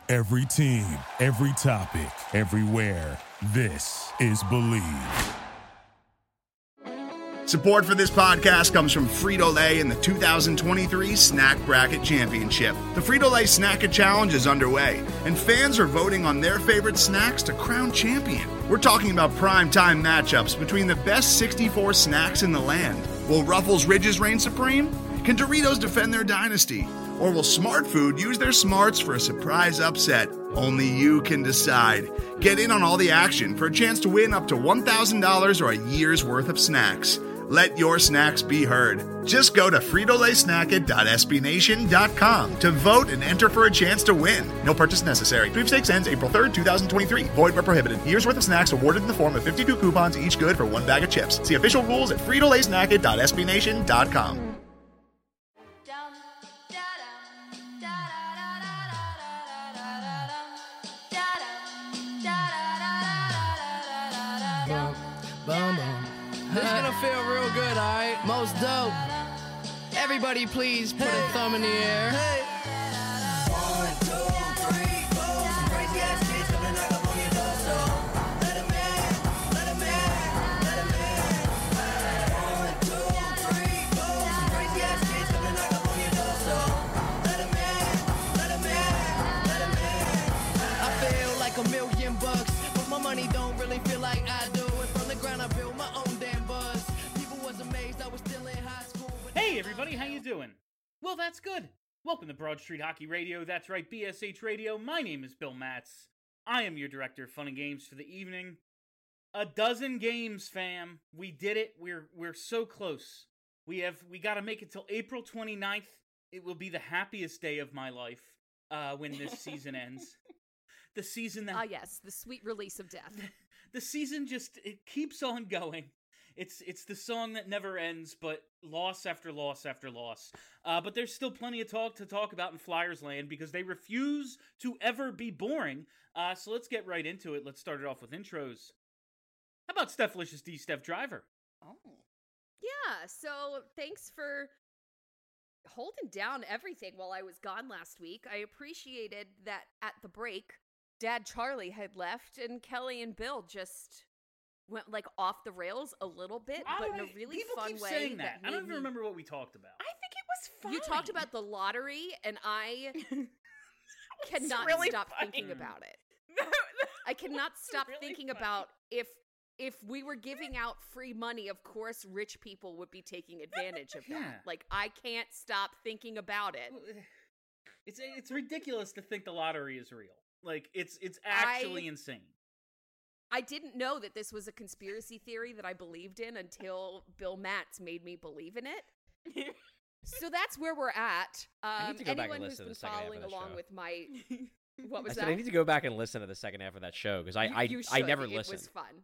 Every team, every topic, everywhere. This is Believe. Support for this podcast comes from Frito-Lay and the 2023 Snack Bracket Championship. The Frito-Lay Snack-It Challenge is underway, and fans are voting on their favorite snacks to crown champion. We're talking about prime-time matchups between the best 64 snacks in the land. Will Ruffles Ridges reign supreme? Can Doritos defend their dynasty? Or will Smart Food use their smarts for a surprise upset? Only you can decide. Get in on all the action for a chance to win up to $1,000 or a year's worth of snacks. Let your snacks be heard. Just go to fritolaysnacket.sbnation.com to vote and enter for a chance to win. No purchase necessary. Sweepstakes ends April 3rd, 2023. Void where prohibited. Year's worth of snacks awarded in the form of 52 coupons, each good for one bag of chips. See official rules at fritolaysnacket.sbnation.com. This is gonna feel real good, alright? Most dope. Everybody please put a thumb in the air. Hey. 1, 2, 3, 4. Some crazy ass kids coming knock up on your door, so let 'em in, let 'em in, let 'em in. 1, 2, 3, 4. Some crazy ass kids coming knock up on your door, so let 'em in, let 'em in, let 'em in. I feel like $1,000,000, but my money don't really feel like I do. And from the ground I built my own damn buzz. People was amazed I was still in high school. Hey everybody, how you doing? Well, that's good. Welcome to Broad Street Hockey Radio. That's right, BSH Radio. My name is Bill Matz. I am your director of fun and games for the evening. 12 games, fam. We did it. We're so close. We got to make it till April 29th. It will be the happiest day of my life when this season ends. The season that yes, the sweet release of death. The season it keeps on going. It's the song that never ends, but loss after loss after loss. But there's still plenty of to talk about in Flyers land because they refuse to ever be boring. So let's get right into it. Let's start it off with intros. How about Stephlicious D, Steph Driver? Oh. Yeah, so thanks for holding down everything while I was gone last week. I appreciated that at the break, Dad Charlie had left and Kelly and Bill just went like off the rails a little bit, but in a really fun keep way. Saying that. I don't even remember what we talked about. I think it was fun. You talked about the lottery, and I cannot really stop funny. thinking about it. I cannot stop really thinking funny. about if we were giving out free money, of course rich people would be taking advantage of that. Yeah. Like, I can't stop thinking about it. It's ridiculous to think the lottery is real. Like, it's actually insane. I didn't know that this was a conspiracy theory that I believed in until Bill Matz made me believe in it. So that's where we're at. I need to go back Anyone and who's listen to been the second half of following the along show. with my what was I that? said I need to go back and listen to the second half of that show because I You never should. listened. It was fun.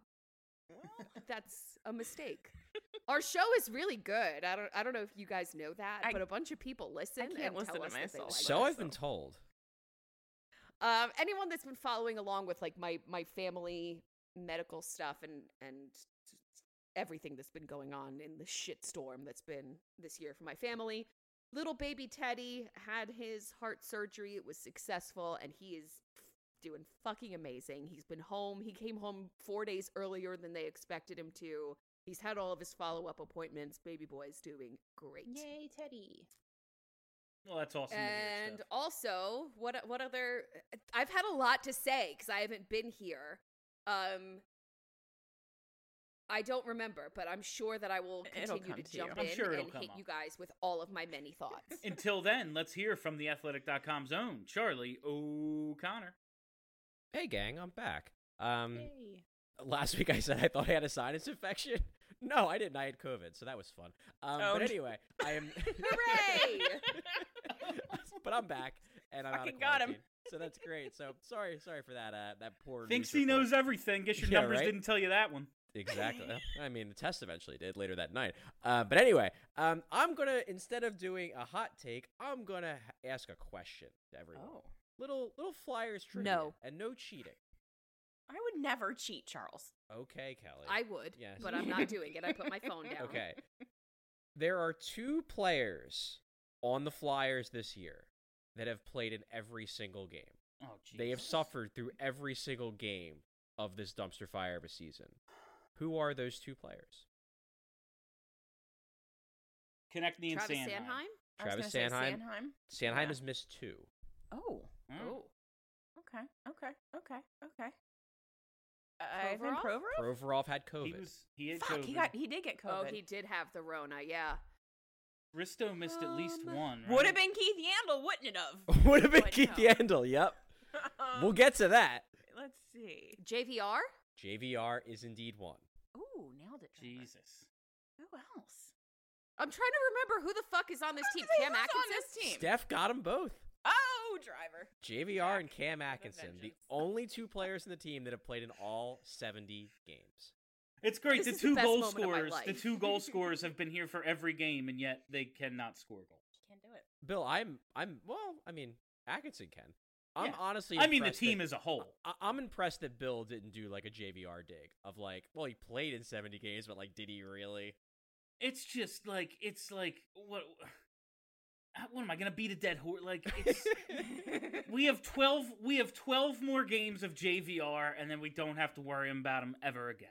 That's a mistake. Our show is really good. I don't know if you guys know that, but a bunch of people listen can't and listen tell to us that they myself. like So it. I've been told. Anyone that's been following along with like my family medical stuff and everything that's been going on in the shitstorm that's been this year for my family. Little baby Teddy had his heart surgery. It was successful, and he is doing fucking amazing. He's been home. He came home 4 days earlier than they expected him to. He's had all of his follow-up appointments. Baby boy's doing great. Yay, Teddy. Well, that's awesome. And also, what other? I've had a lot to say because I haven't been here. I don't remember, but I'm sure that I will It'll continue come to to you. jump I'm in sure it'll and come hit up. you guys with all of my many thoughts. Until then, let's hear from theathletic.com's own Charlie O'Connor. Hey gang, I'm back. Yay. Last week I said I thought I had a sinus infection. No, I didn't. I had COVID, so that was fun. But anyway, I am. Hooray! But I'm back, and I'm out of Fucking got him. quarantine, so that's great. So sorry for that. That poor. Thinks news he report. knows everything. Guess your Yeah, numbers right? didn't tell you that one. Exactly. I mean, the test eventually did later that night. But anyway, I'm gonna, instead of doing a hot take, I'm gonna ask a question to everyone. Oh. Little Flyers trivia. No. And no cheating. I would never cheat, Charles. Okay, Kelly. I would, Yes. but I'm not doing it. I put my phone down. Okay. There are 2 players on the Flyers this year that have played in every single game. Oh, They have Jesus. suffered through every single game of this dumpster fire of a season. Who are those two players? Konechny and Travis Sanheim. Sanheim? I was Travis gonna say Sanheim. Sanheim. Sanheim Yeah. has missed 2. Oh. Mm. Oh. Okay. Ivan Provorov? Provorov? Provorov had COVID. He had Fuck, COVID. he did get Oh, COVID. he did have the Rona, yeah. Risto missed at least one. Right? Would have been Keith Yandel, wouldn't it have? Would have been But Keith no. Yandel, yep. We'll get to that. Let's see. JVR? JVR is indeed one. Ooh, nailed it. Driver. Jesus. Who else? I'm trying to remember who the fuck is on this team. Who's Cam on Atkinson? this team? Steph got them both. Oh, Driver. JVR and Cam with a Atkinson, the vengeance. only 2 players in the team that have played in all 70 games. It's great. This The is the two best goal moment of my scorers. The life. 2 goal scorers have been here for every game, and yet they cannot score goals. Can't do it. Bill, Atkinson can. I'm Yeah. honestly I mean, the impressed team that- as a whole. I'm impressed that Bill didn't do like a JVR dig of like, well, he played in 70 games, but like, did he really? It's just like what am I gonna beat a dead horse? Like it's we have 12 more games of JVR, and then we don't have to worry about him ever again.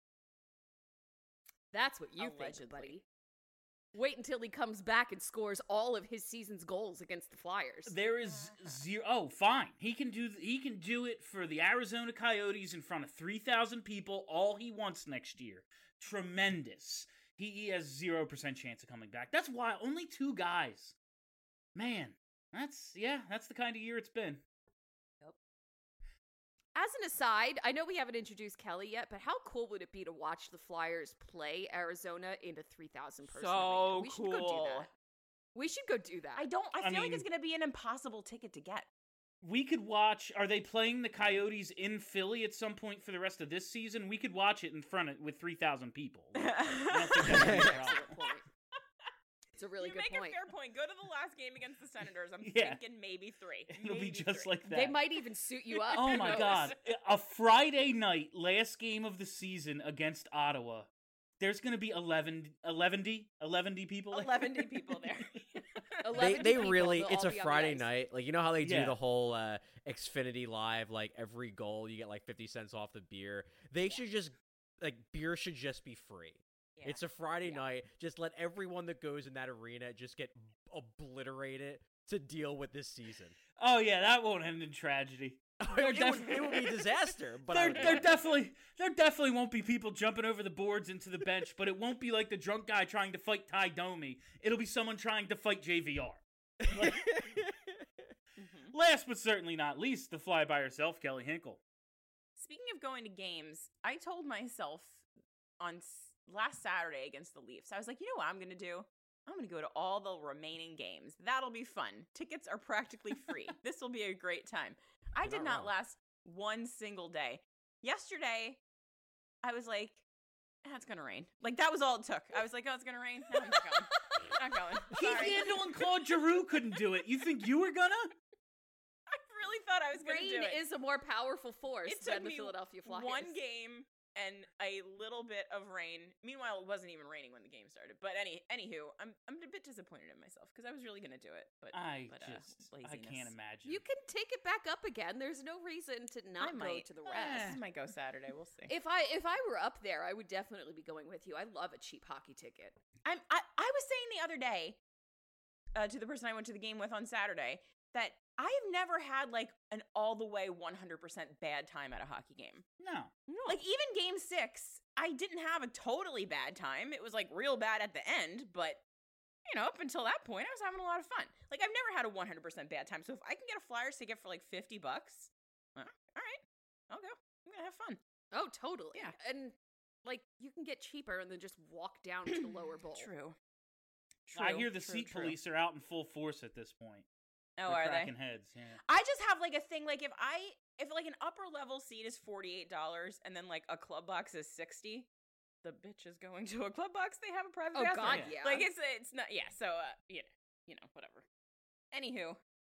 That's what you think, Allegedly. buddy. Wait until he comes back and scores all of his season's goals against the Flyers. There is zero. Oh, fine. He can do it for the Arizona Coyotes in front of 3,000 people. All he wants next year. Tremendous. He has 0% chance of coming back. That's why only 2 guys. Man, that's the kind of year it's been. As an aside, I know we haven't introduced Kelly yet, but how cool would it be to watch the Flyers play Arizona in a 3,000 person So arena? We should go do cool. that. We should go do that. I I feel like it's mean- gonna be an impossible ticket to get. We could watch. Are they playing the Coyotes in Philly at some point for the rest of this season? We could watch it in front of with 3,000 people. I don't think that's gonna be a problem. Excellent point. It's a really you good make point. a fair point. Go to the last game against the Senators. I'm Yeah. thinking maybe 3. It'll be Maybe just 3. like that. They might even suit you up. Oh Who my knows? god. A Friday night, last game of the season against Ottawa. There's going to be 11 people there. 11 people there. 11 They people, really, they'll it's all a be on the Friday ice. night. Like, you know how they do Yeah. the whole Xfinity Live, like every goal you get like 50 cents off the beer. They should just, like, beer should just be free. Yeah. It's a Friday Yeah. night. Just let everyone that goes in that arena just get obliterated to deal with this season. Oh yeah, that won't end in tragedy. It would be a disaster, but there definitely won't be people jumping over the boards into the bench, but it won't be like the drunk guy trying to fight Ty Domi. It'll be someone trying to fight JVR. Like, last but certainly not least, the fly by herself, Kelly Hinkle. Speaking of going to games, I told myself on last Saturday against the Leafs, I was like, you know what I'm going to do? I'm going to go to all the remaining games. That'll be fun. Tickets are practically free. This will be a great time. I You're did not not wrong. last one single day. Yesterday, I was like, it's going to rain. Like, that was all it took. I was like, oh, it's going to rain? No, I'm not going. Not going. Keith Sorry. Yandel and Claude Giroux couldn't do it. You think you were gonna? I really thought I was going to do Rain it. is a more powerful force It took than the me Philadelphia Flyers. one game and a little bit of rain. Meanwhile, it wasn't even raining when the game started. But anywho, I'm a bit disappointed in myself because I was really gonna do it. But I laziness. can't imagine. You can take it back up again. There's no reason to not go to the rest. I might go Saturday. We'll see. If I were up there, I would definitely be going with you. I love a cheap hockey ticket. I was saying the other day to the person I went to the game with on Saturday that I have never had like an all the way 100% bad time at a hockey game. No. Like even game 6, I didn't have a totally bad time. It was like real bad at the end, but you know, up until that point, I was having a lot of fun. Like I've never had a 100% bad time. So if I can get a Flyers ticket for like $50, all right, I'll go. I'm gonna have fun. Oh, totally. Yeah. And like you can get cheaper and then just walk down to the lower bowl. True. I hear the seat police are out in full force at this point. Oh, They're are they? cracking heads. Yeah. I just have like a thing like if like an upper level seat is $48 and then like a club box is $60, the bitch is going to a club box. They have a private Oh bathroom. God, yeah. Like it's not so you know whatever. Anywho,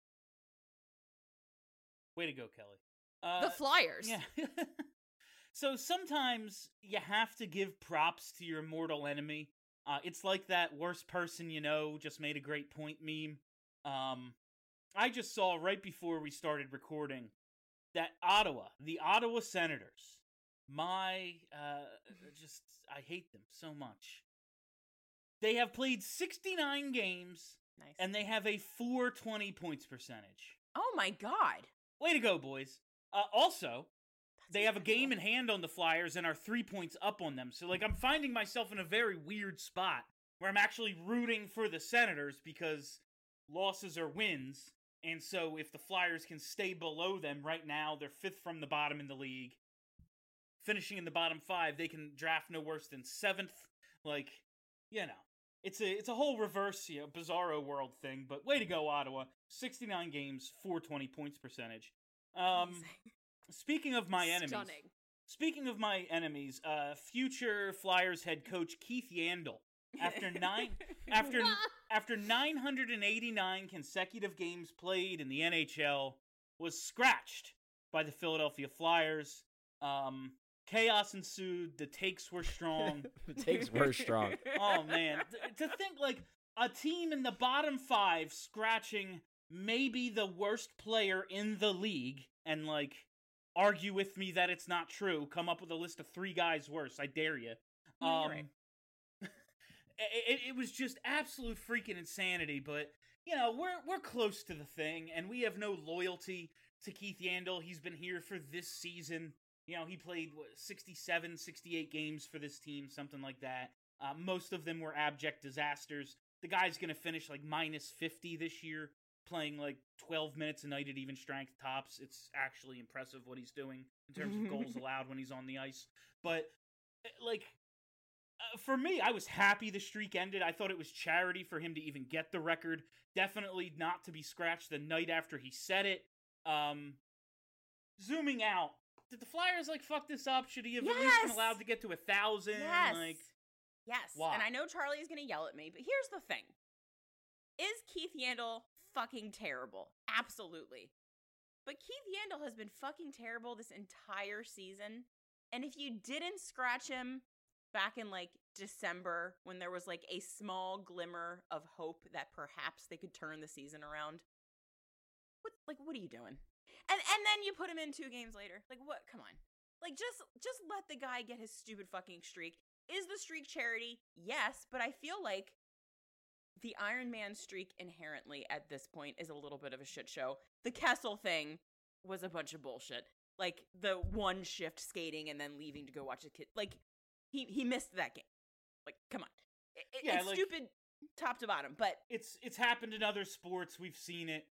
Way to go, Kelly. the Flyers. Yeah. So sometimes you have to give props to your mortal enemy. It's like that worst person you know just made a great point meme. I just saw right before we started recording that the Ottawa Senators, I hate them so much. They have played 69 games, Nice. and they have a 420 points percentage. Oh my god. Way to go, boys. Also, they have a incredible. game in hand on the Flyers and are 3 points up on them. So, like, I'm finding myself in a very weird spot where I'm actually rooting for the Senators because losses are wins. And so if the Flyers can stay below them right now, they're 5th from the bottom in the league. Finishing in the bottom 5, they can draft no worse than 7th. Like, you know, it's a whole reverse, bizarro world thing. But way to go, Ottawa. 69 games, 420 points percentage. Amazing. Speaking of my enemies. Stunning. Speaking of my enemies, future Flyers head coach Keith Yandel, after 989 consecutive games played in the NHL, was scratched by the Philadelphia Flyers. Chaos ensued. The takes were strong. The takes were strong. Oh man, to think like a team in the bottom 5 scratching maybe the worst player in the league, and like argue with me that it's not true. Come up with a list of 3 guys worse. I dare you. You're right. It was just absolute freaking insanity, but you know, we're close to the thing, and we have no loyalty to Keith Yandel. He's been here for this season. You know, he played 67, 68 games for this team, something like that. Most of them were abject disasters. The guy's going to finish like minus 50 this year, playing like 12 minutes a night at even strength tops. It's actually impressive what he's doing in terms of goals allowed when he's on the ice. But like, for me, I was happy the streak ended. I thought it was charity for him to even get the record. Definitely not to be scratched the night after he said it. Zooming out, did the Flyers like fuck this up? Should he have at least been Yes! allowed to get to 1,000? Yes. Like, Yes. Why? And I know Charlie is going to yell at me, but here's the thing. Is Keith Yandel fucking terrible? Absolutely. But Keith Yandel has been fucking terrible this entire season. And if you didn't scratch him back in like December when there was like a small glimmer of hope that perhaps they could turn the season around, what are you doing? And then you put him in 2 games later. Like, what? Come on. Like, just let the guy get his stupid fucking streak. Is the streak charity? Yes, but I feel like the Iron Man streak inherently at this point is a little bit of a shit show. The Kessel thing was a bunch of bullshit. Like, the 1 shift skating and then leaving to go watch a kid. Like, he missed that game. Like, come on. It's like, stupid top to bottom, but... It's happened in other sports. We've seen it.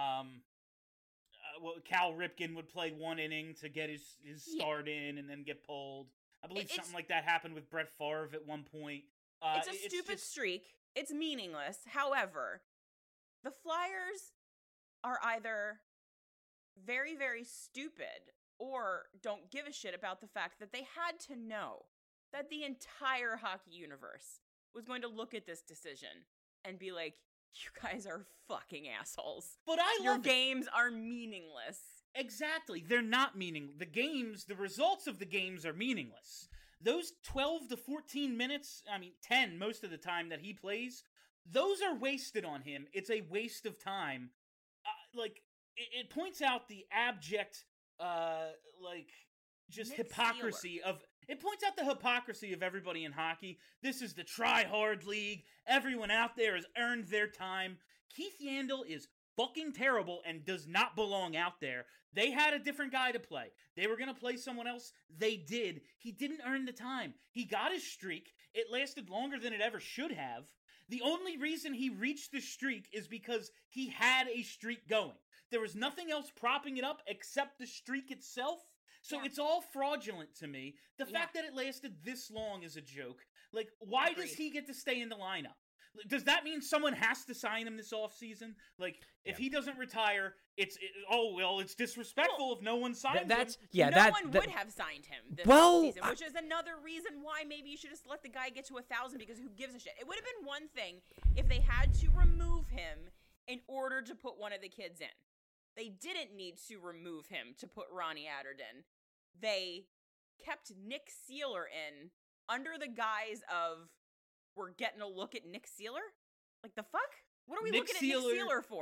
Cal Ripken would play 1 inning to get his start in and then get pulled. I believe something like that happened with Brett Favre at one point. It's a stupid streak. It's meaningless. However, the Flyers are either very, very stupid or don't give a shit about the fact that they had to know that the entire hockey universe was going to look at this decision and be like, you guys are fucking assholes. But Your games are meaningless. Exactly. They're not meaningless. The results of the games are meaningless. Those 12 to 14 minutes, 10 most of the time that he plays, those are wasted on him. It's a waste of time. It points out the abject, Nick hypocrisy of... It points out the hypocrisy of everybody in hockey. This is the try-hard league. Everyone out there has earned their time. Keith Yandel is fucking terrible and does not belong out there. They had a different guy to play. They were going to play someone else. They did. He didn't earn the time. He got his streak. It lasted longer than it ever should have. The only reason he reached the streak is because he had a streak going. There was nothing else propping it up except the streak itself. So it's all fraudulent to me. The fact that it lasted this long is a joke. Like, why does he get to stay in the lineup? Does that mean someone has to sign him this offseason? Like, if he doesn't retire, it's disrespectful if no one signs him. No one would have signed him this season, which is another reason why maybe you should just let the guy get to 1,000 because who gives a shit? It would have been one thing if they had to remove him in order to put one of the kids in. They didn't need to remove him to put Ronnie Atherton. They kept Nick Seeler in under the guise of, we're getting a look at Nick Seeler? Like, the fuck? What are we looking at Nick Seeler for?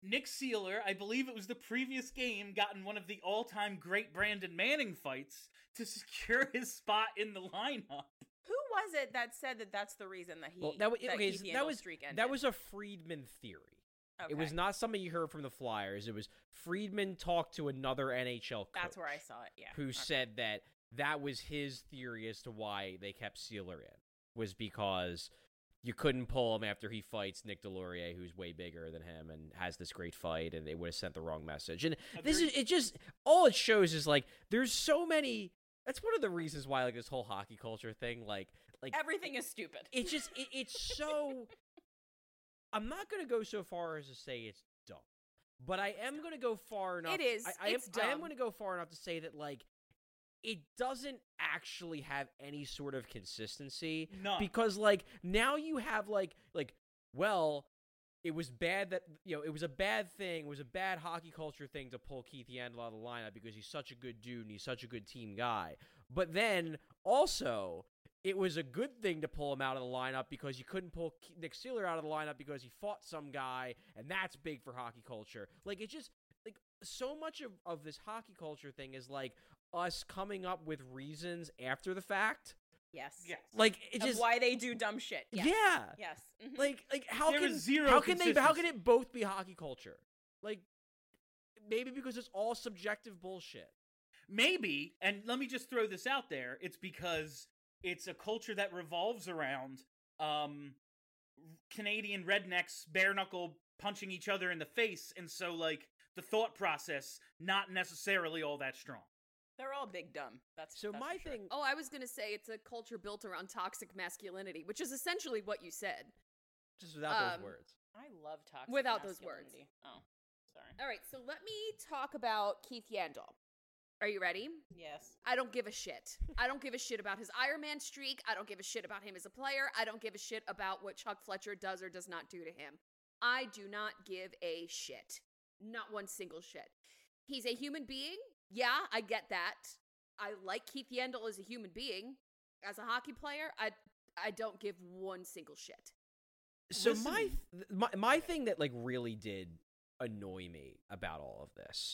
Nick Sealer, I believe it was the previous game, got in one of the all-time great Brandon Manning fights to secure his spot in the lineup. Who was it that said that that's the reason that he Well, that was Keith Yandle's streak ended? that was a Friedman theory. It was Okay. not something you heard from the Flyers. It was Friedman talked to another NHL coach. That's where I saw it. Yeah. Who Okay. said that was his theory as to why they kept Sealer in, was because you couldn't pull him after he fights Nick Delorier, who's way bigger than him and has this great fight, and they would have sent the wrong message. And this is it. Just all it shows is like there's so many. That's one of the reasons why like this whole hockey culture thing, like Everything is stupid. it's just it's so. I'm not gonna go so far as to say it's dumb, but I am gonna go far enough. It is. I It's am dumb. gonna go far enough to say that like it doesn't actually have any sort of consistency. None. Because like now you have like well, it was bad that it was a bad thing. It was a bad hockey culture thing to pull Keith Yandle out of the lineup because he's such a good dude and he's such a good team guy. But then also it was a good thing to pull him out of the lineup because you couldn't pull Nick Sealer out of the lineup because he fought some guy, and that's big for hockey culture. Like, it's just, like, so much of this hockey culture thing is, like, us coming up with reasons after the fact. Yes. Yes. Like, it Of just... why they do dumb shit. Yes. Yeah. Yes. Mhm. Like how There can is zero how can consistency. it both be hockey culture? Like, maybe because it's all subjective bullshit. Maybe, and let me just throw this out there, it's because it's a culture that revolves around Canadian rednecks bare knuckle punching each other in the face, and so like the thought process not necessarily all that strong. They're all big dumb. That's So that's my for sure. thing... Oh, I was going to say it's a culture built around toxic masculinity, which is essentially what you said. Just without those words. I love toxic Without those words. masculinity. Oh, sorry. All right, so let me talk about Keith Yandle. Are you ready? Yes. I don't give a shit. I don't give a shit about his Iron Man streak. I don't give a shit about him as a player. I don't give a shit about what Chuck Fletcher does or does not do to him. I do not give a shit. Not one single shit. He's a human being. Yeah, I get that. I like Keith Yandle as a human being. As a hockey player, I don't give one single shit. So Listening- my thing that like really did annoy me about all of this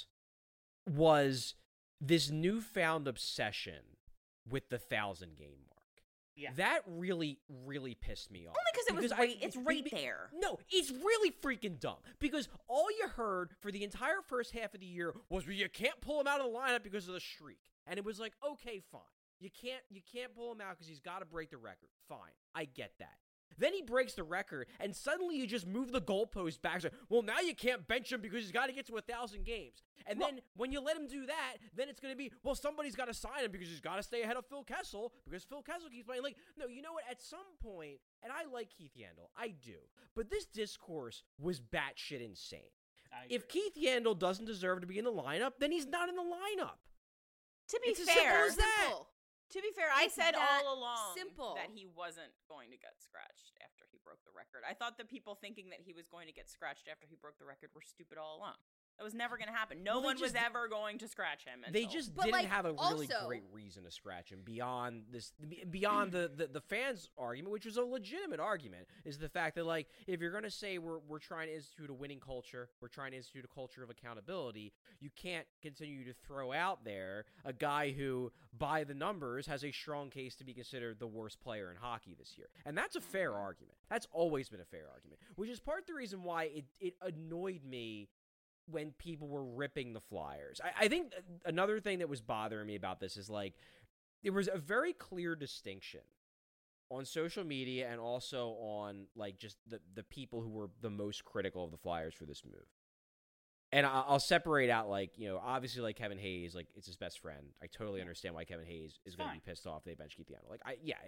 was this newfound obsession with the 1,000 game mark. Yeah. That really, really pissed me off. Only because it was right. It's right there. No, it's really freaking dumb. Because all you heard for the entire first half of the year was, well, you can't pull him out of the lineup because of the streak. And it was like, okay, fine. You can't pull him out because he's got to break the record. Fine, I get that. Then he breaks the record, and suddenly you just move the goalpost back. So, well, now you can't bench him because he's got to get to 1,000 games. And then when you let him do that, then it's going to be, well, somebody's got to sign him because he's got to stay ahead of Phil Kessel because Phil Kessel keeps playing. Like, no, you know what? At some point, and I like Keith Yandle, I do, but this discourse was batshit insane. I If agree. Keith Yandle doesn't deserve to be in the lineup, then he's not in the lineup. To be It's as simple fair, as that. Simple. to be fair, I It's said that all along simple. that he wasn't going to get scratched after he broke the record. I thought the people thinking that he was going to get scratched after he broke the record were stupid all along. That was never going to happen. No Well, they one was just- ever going to scratch him. They until- just But, didn't like, have a really also- great reason to scratch him beyond this, beyond the fans' argument, which was a legitimate argument, is the fact that like if you're gonna say we're trying to institute a winning culture, we're trying to institute a culture of accountability, you can't continue to throw out there a guy who, by the numbers, has a strong case to be considered the worst player in hockey this year, and that's a fair argument. That's always been a fair argument, which is part of the reason why it annoyed me when people were ripping the Flyers. I think another thing that was bothering me about this is like there was a very clear distinction on social media and also on like just the people who were the most critical of the Flyers for this move. And I'll separate out like, you know, obviously like Kevin Hayes, like it's his best friend. I totally understand why Kevin Hayes is going to be Fine. pissed off they bench Keith Yandle. Like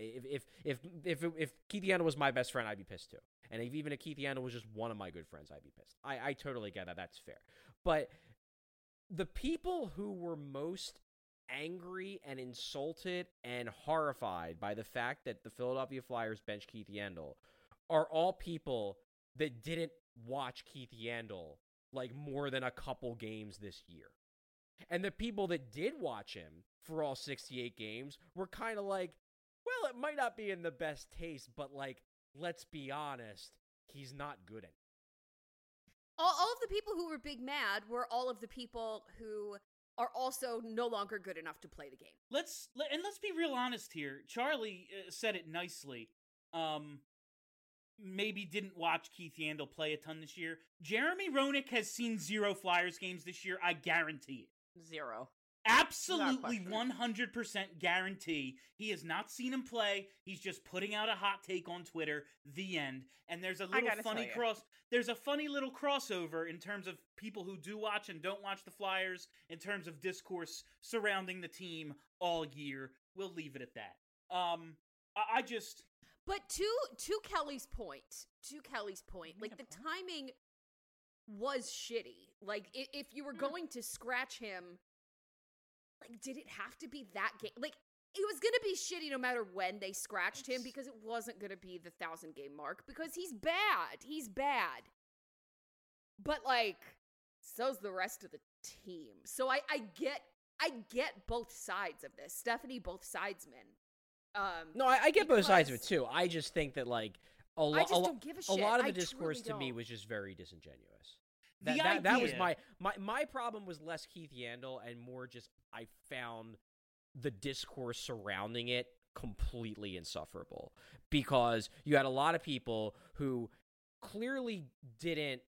if Keith Yandle was my best friend, I'd be pissed too. And even if Keith Yandle was just one of my good friends, I'd be pissed. I totally get that. That's fair. But the people who were most angry and insulted and horrified by the fact that the Philadelphia Flyers bench Keith Yandle are all people that didn't watch Keith Yandle like more than a couple games this year. And the people that did watch him for all 68 games were kind of like, well, it might not be in the best taste, but like, let's be honest, he's not good at it. All of the people who were big mad were all of the people who are also no longer good enough to play the game. Let's be real honest here. Charlie said it nicely. Maybe didn't watch Keith Yandel play a ton this year. Jeremy Roenick has seen 0 Flyers games this year. I guarantee it. 0. Absolutely Without 100% guarantee. He has not seen him play. He's just putting out a hot take on Twitter. The end. And there's a little gotta funny tell ya. There's a funny little crossover in terms of people who do watch and don't watch the Flyers, in terms of discourse surrounding the team all year. We'll leave it at that. I just... But to Kelly's point, like the timing was shitty. Like if you were going to scratch him, like did it have to be that game? Like it was going to be shitty no matter when they scratched him because it wasn't going to be the 1,000 game mark because he's bad. He's bad. But like so's the rest of the team. So I get both sides of this. Stephanie, both sidesmen. No, I get both sides of it because- too. I just think that like a I just don't give a shit. lot of I the discourse truly to me don't. was just very disingenuous. The That was idea- my problem was less Keith Yandel and more just I found the discourse surrounding it completely insufferable because you had a lot of people who clearly didn't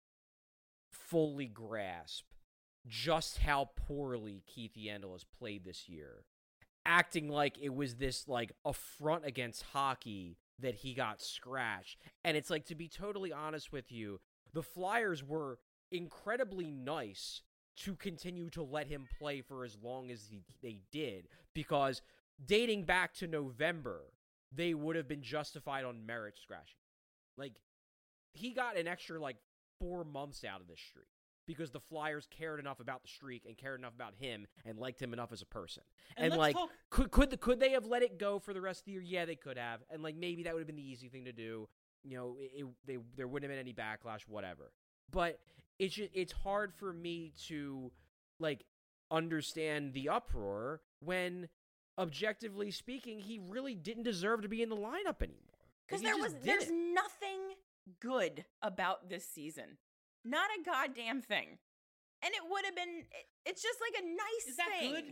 fully grasp just how poorly Keith Yandel has played this year, acting like it was this like affront against hockey that he got scratched. And it's like, to be totally honest with you, the Flyers were incredibly nice to continue to let him play for as long as they did, because dating back to November, they would have been justified on merit scratching. Like, he got an extra like 4 months out of this streak because the Flyers cared enough about the streak and cared enough about him and liked him enough as a person. And let's like, talk- could they have let it go for the rest of the year? Yeah, they could have. And like, maybe that would have been the easy thing to do. You know, there wouldn't have been any backlash, whatever. But it's hard for me to like understand the uproar when, objectively speaking, he really didn't deserve to be in the lineup anymore. Because Like, he just there's didn't. nothing good about this season. Not a goddamn thing. And it would have been, it's just like a nice Is that thing. good?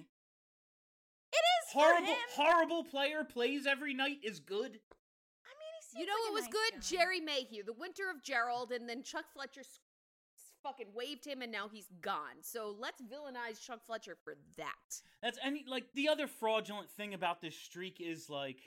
It is for him. Horrible player plays every night is good. I mean, he seems You know like what a was nice good? guy. Jerry Mayhew, the winter of Gerald, and then Chuck Fletcher fucking waved him, and now he's gone. So let's villainize Chuck Fletcher for that. That's like the other fraudulent thing about this streak is like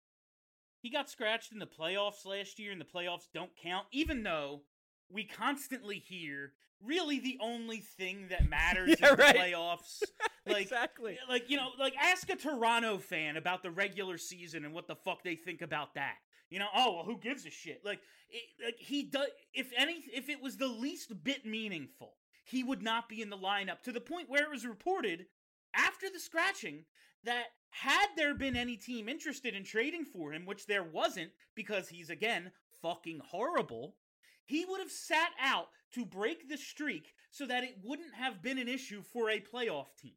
he got scratched in the playoffs last year, and the playoffs don't count, even though we constantly hear really the only thing that matters Yeah, in the right. playoffs. Like, Exactly. Like, you know, like ask a Toronto fan about the regular season and what the fuck they think about that. You know, oh well, who gives a shit? Like he does. If it was the least bit meaningful, he would not be in the lineup. To the point where it was reported after the scratching that had there been any team interested in trading for him, which there wasn't because he's again fucking horrible, he would have sat out to break the streak so that it wouldn't have been an issue for a playoff team.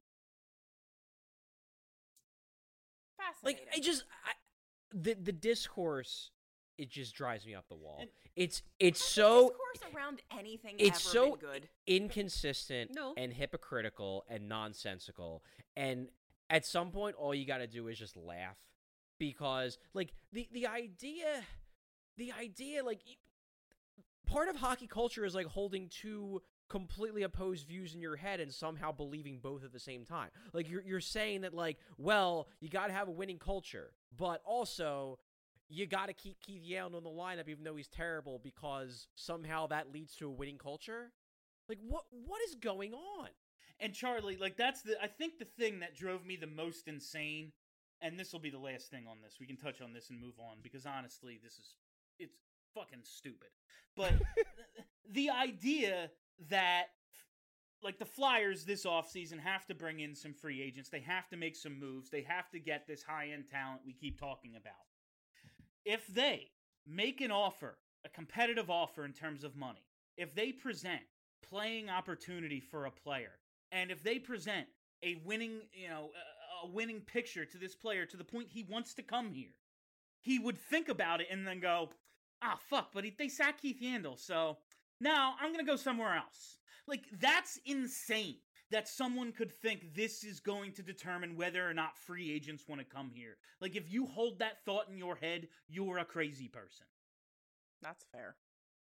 Like, Fascinating. the discourse, it just drives me up the wall. And- It's Has so discourse around anything it's ever so been good. inconsistent No. and hypocritical and nonsensical. And at some point, all you got to do is just laugh, because like the idea, like part of hockey culture is like holding two completely opposed views in your head and somehow believing both at the same time. Like you're saying that like, well, you got to have a winning culture, but also you got to keep Keith Yandel in the lineup even though he's terrible because somehow that leads to a winning culture. Like what is going on? And Charlie, like that's I think the thing that drove me the most insane, and this will be the last thing on this. We can touch on this and move on because honestly, it's fucking stupid. But the idea that like the Flyers this offseason have to bring in some free agents, they have to make some moves, they have to get this high-end talent we keep talking about. If they make an offer, a competitive offer in terms of money, if they present playing opportunity for a player, and if they present a winning, a winning picture to this player to the point he wants to come here, he would think about it and then go, fuck, but they sacked Keith Yandel, so Now, I'm going to go somewhere else. Like, that's insane that someone could think this is going to determine whether or not free agents want to come here. Like, if you hold that thought in your head, you're a crazy person. That's fair.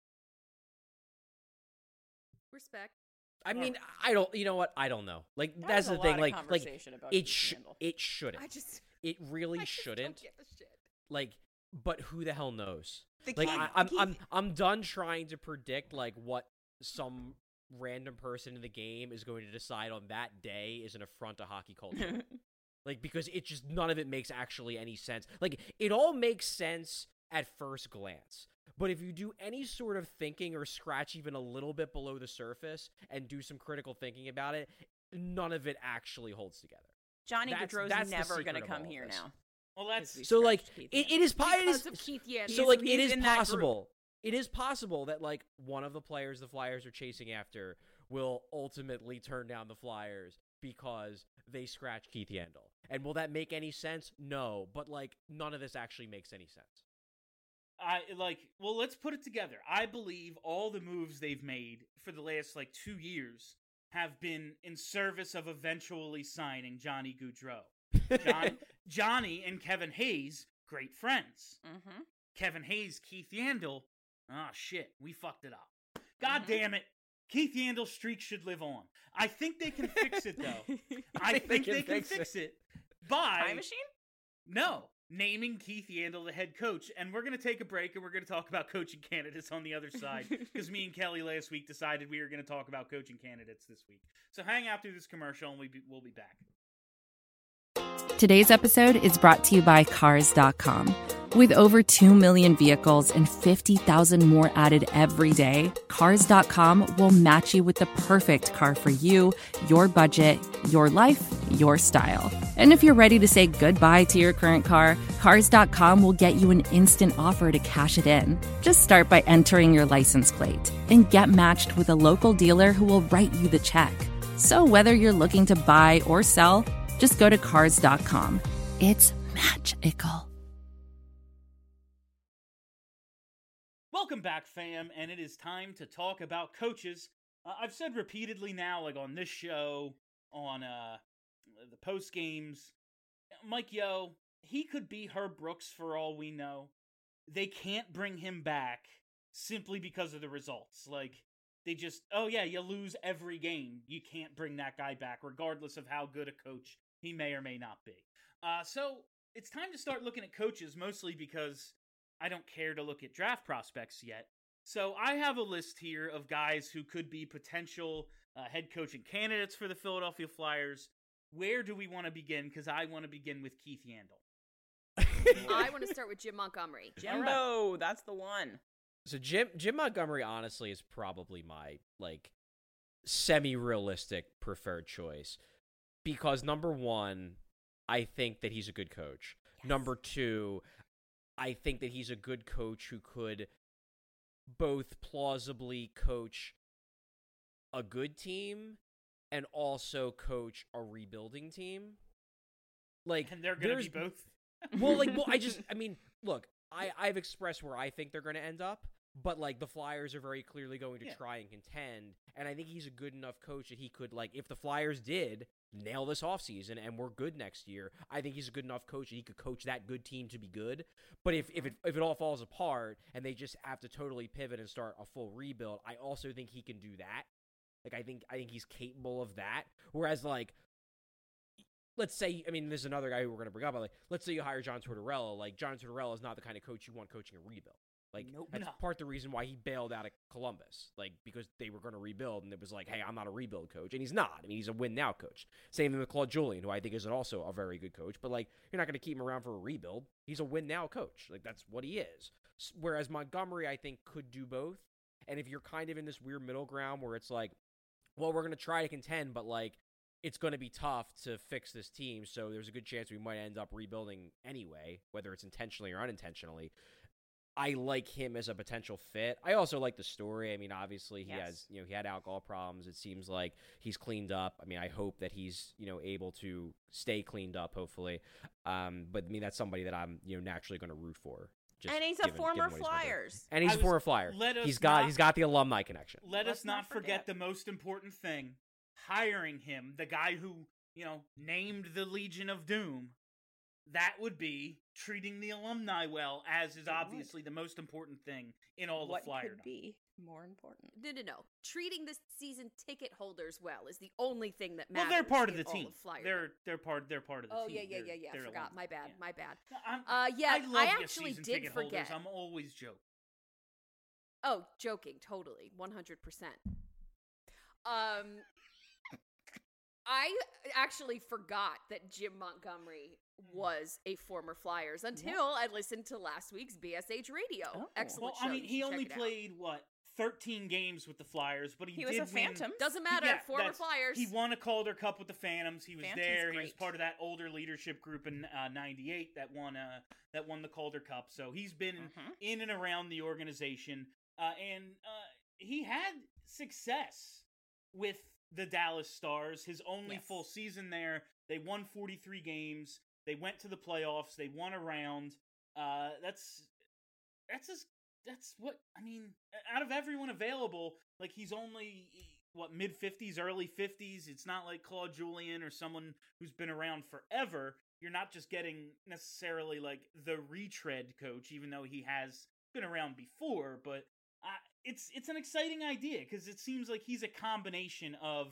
Respect. I mean, I don't. You know what? I don't know. Like That that's was the a thing. lot of Like conversation about it Keith Yandle. it shouldn't. It really I just shouldn't. Don't give a shit. Like, but who the hell knows? The Like Keith- I'm done trying to predict like what some random person in the game is going to decide on that day is an affront to hockey culture. Like, because it just none of it makes actually any sense. Like, it all makes sense at first glance. But if you do any sort of thinking or scratch even a little bit below the surface and do some critical thinking about it, none of it actually holds together. Johnny That's Gaudreau's the never secret going to of come all of here this. now. Well, that's... We So like scratched Keith it Yandle. is Because of Keith Yandle. so like it he's is in that group. possible. It is possible that like one of the players the Flyers are chasing after will ultimately turn down the Flyers because they scratch Keith Yandle. And will that make any sense? No, but like none of this actually makes any sense. Well, let's put it together. I believe all the moves they've made for the last, 2 years have been in service of eventually signing Johnny Gaudreau. Johnny and Kevin Hayes, great friends. Mm-hmm. Kevin Hayes, Keith Yandle, shit, we fucked it up. God damn it. Keith Yandle's streak should live on. I think they can fix it, though. I think they can fix it by... Time machine? No. Naming Keith Yandle the head coach. And we're going to take a break and we're going to talk about coaching candidates on the other side. Because me and Kelly last week decided we were going to talk about coaching candidates this week. So hang out through this commercial and we'll be back. Today's episode is brought to you by Cars.com. With over 2 million vehicles and 50,000 more added every day, Cars.com will match you with the perfect car for you, your budget, your life, your style. And if you're ready to say goodbye to your current car, Cars.com will get you an instant offer to cash it in. Just start by entering your license plate and get matched with a local dealer who will write you the check. So whether you're looking to buy or sell, just go to Cars.com. It's magical. Welcome back, fam, and it is time to talk about coaches. I've said repeatedly now, on this show, on the post games, Mike Yeo, he could be Herb Brooks for all we know. They can't bring him back simply because of the results. They just, you lose every game. You can't bring that guy back, regardless of how good a coach he may or may not be. So it's time to start looking at coaches, mostly because I don't care to look at draft prospects yet. So I have a list here of guys who could be potential head coaching candidates for the Philadelphia Flyers. Where do we want to begin? Because I want to begin with Keith Yandle. I want to start with Jim Montgomery. Jimbo, that's the one. So Jim Montgomery honestly is probably my semi-realistic preferred choice because number one, I think that he's a good coach. Yes. Number two, I think that he's a good coach who could both plausibly coach a good team and also coach a rebuilding team. And they're going to be both? Look, I've expressed where I think they're going to end up, but the Flyers are very clearly going to try and contend, and I think he's a good enough coach that he could, if the Flyers did nail this offseason and we're good next year, I think he's a good enough coach that he could coach that good team to be good. But if it all falls apart and they just have to totally pivot and start a full rebuild, I also think he can do that. I think he's capable of that. Whereas let's say, there's another guy who we're going to bring up, but let's say you hire John Tortorella. John Tortorella is not the kind of coach you want coaching a rebuild. That's part of the reason why he bailed out of Columbus, because they were going to rebuild, and it was hey, I'm not a rebuild coach, and he's not. He's a win-now coach. Same thing with Claude Julien, who I think is also a very good coach, but, you're not going to keep him around for a rebuild. He's a win-now coach. That's what he is. Whereas Montgomery, I think, could do both, and if you're kind of in this weird middle ground where it's well, we're going to try to contend, but, it's going to be tough to fix this team, so there's a good chance we might end up rebuilding anyway, whether it's intentionally or unintentionally. I like him as a potential fit. I also like the story. Obviously he has, he had alcohol problems. It seems like he's cleaned up. I hope that he's, able to stay cleaned up, hopefully. But that's somebody that I'm, naturally going to root for. Just And he's a given former what he's been doing. Flyers. And he's I a was- former Flyer. let us He's not- got the alumni connection. Let Let's us not not forget forget. the most important thing: hiring him, the guy who named the Legion of Doom. That would be treating the alumni well, as is It obviously the most important thing in all What the Flyer. could be more important? No. Treating the season ticket holders well is the only thing that Well, matters. they're part of in the all team. of Flyerdom. They're part of the Oh team. yeah. They're Forgot. alumni. My bad. Yeah. My bad. No, Yeah, I love I you actually season did ticket holders. forget. I'm always joking. Oh, joking, totally, 100%. I actually forgot that Jim Montgomery was a former Flyers until I listened to last week's BSH Radio. Oh. Excellent Well, show. I mean, you he should only check it out. played 13 games with the Flyers, but he He did was a win. Phantom. Doesn't matter. Yeah, former that's- Flyers. He won a Calder Cup with the Phantoms. He was Phantom's there. He was great. part of that older leadership group in '98 that won the Calder Cup. So he's been in and around the organization, and he had success with the Dallas Stars. His only Yes. full season there, they won 43 games. They went to the playoffs. They won a round. That's what I mean. Out of everyone available, like he's only mid 50s, early 50s. It's not like Claude Julien or someone who's been around forever. You're not just getting necessarily like the retread coach, even though he has been around before. But it's an exciting idea because it seems like he's a combination of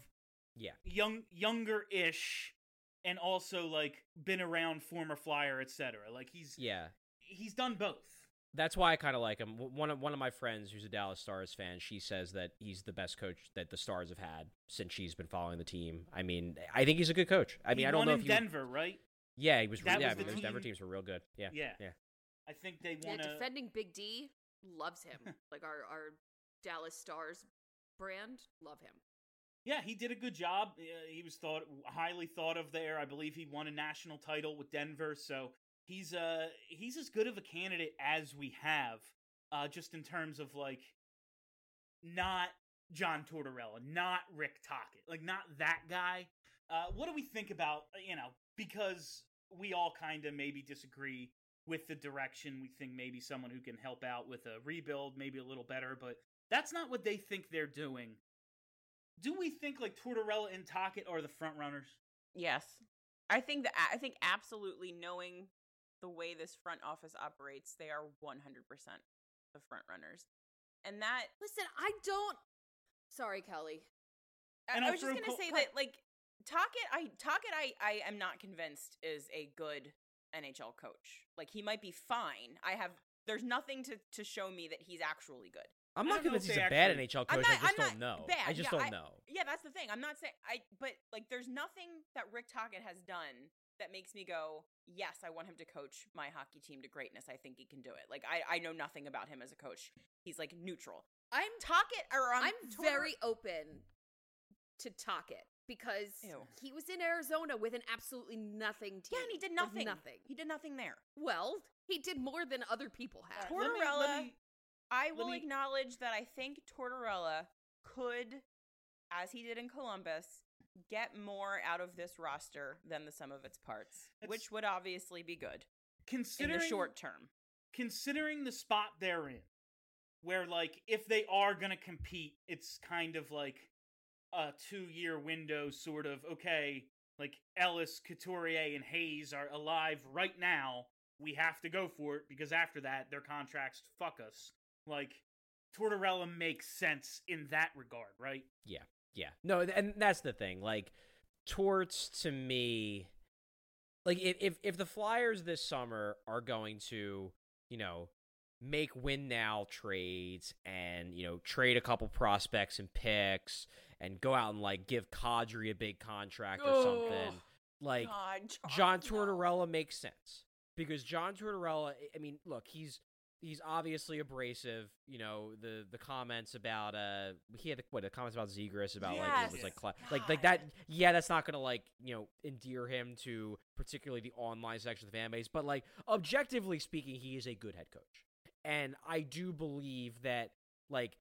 younger-ish and also like been around, former Flyer, etc. Like he's done both. That's why I kind of like him. One of my friends who's a Dallas Stars fan, she says that he's the best coach that the Stars have had since she's been following the team. I mean, I think he's a good coach. I mean, I don't won know in if Denver, right? Yeah, he was. That Yeah, was the those Denver team- teams were real good. Yeah. I think they Yeah, won defending Big D loves him. Like our Dallas Stars brand, love him. Yeah, he did a good job. He was highly thought of there. I believe he won a national title with Denver, so he's as good of a candidate as we have, just in terms of like not John Tortorella, not Rick Tocchet, like not that guy. What do we think about, because we all kind of maybe disagree with the direction. We think maybe someone who can help out with a rebuild, maybe a little better, but that's not what they think they're doing. Do we think like Tortorella and Tocchet are the front runners? Yes. I think absolutely, knowing the way this front office operates, they are 100% the front runners. And that Listen, I don't. Sorry, Kelly. And I I'll was just throw gonna say that like Tocchet I am not convinced is a good NHL coach. Like he might be fine. There's nothing to show me that he's actually good. I'm I not don't know convinced if he's they a bad actually- NHL coach. I just don't know. Bad. I just Yeah, don't know. Yeah, that's the thing. I'm not saying but like there's nothing that Rick Tocchet has done that makes me go, yes, I want him to coach my hockey team to greatness. I think he can do it. Like I know nothing about him as a coach. He's like neutral. I'm very open to Tocchet because Ew. he was in Arizona with an absolutely nothing team. Yeah, and he did Like, nothing. nothing. He did nothing there. Well, he did more than other people have. Let me- Tortorella, let me- I let will me- acknowledge that I think Tortorella could, as he did in Columbus, get more out of this roster than the sum of its parts, which would obviously be good in considering the short term. Considering the spot they're in, where like if they are gonna compete, it's kind of like a 2-year window, sort of. Okay, like Ellis, Couturier, and Hayes are alive right now. We have to go for it because after that, their contracts fuck us. Like Tortorella makes sense in that regard, right? Yeah. No, and that's the thing. Like, Torts to me, like if the Flyers this summer are going to, make win now trades and, trade a couple prospects and picks and go out and like give Kadri a big contract or something, like God, John no. Tortorella makes sense because John Tortorella, I mean, look, he's obviously abrasive. The comments about he had the comments about Zegras about like it was Yes. like that. Yeah, that's not gonna like endear him to particularly the online section of the fan base. But like objectively speaking, he is a good head coach, and I do believe that like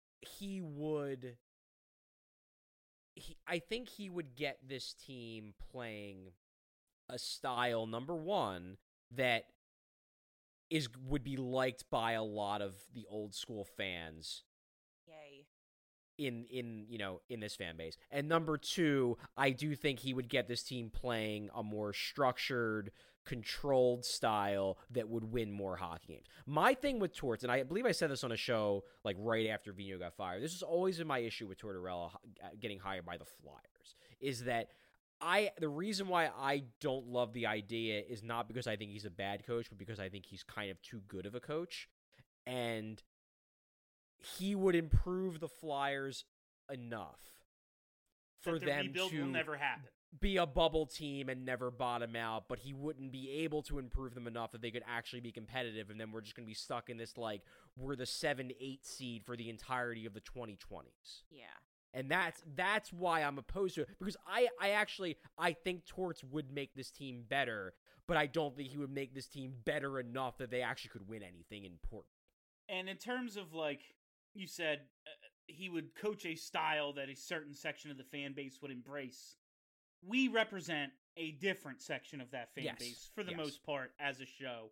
I think he would get this team playing a style, number one, that would be liked by a lot of the old school fans Yay. in this fan base. And number 2, I do think he would get this team playing a more structured, controlled style that would win more hockey games. My thing with Torts, and I believe I said this on a show like right after Vino got fired, this has always been my issue with Tortorella getting hired by the Flyers, is that the reason why I don't love the idea is not because I think he's a bad coach, but because I think he's kind of too good of a coach. And he would improve the Flyers enough for the them rebuild to will never happen. be a bubble team and never bottom out, but he wouldn't be able to improve them enough that they could actually be competitive, and then we're just going to be stuck in this, like, we're the 7-8 seed for the entirety of the 2020s. Yeah. And that's why I'm opposed to it, because I think Torts would make this team better, but I don't think he would make this team better enough that they actually could win anything important. And in terms of, like you said, he would coach a style that a certain section of the fan base would embrace. We represent a different section of that fan base for the most part as a show.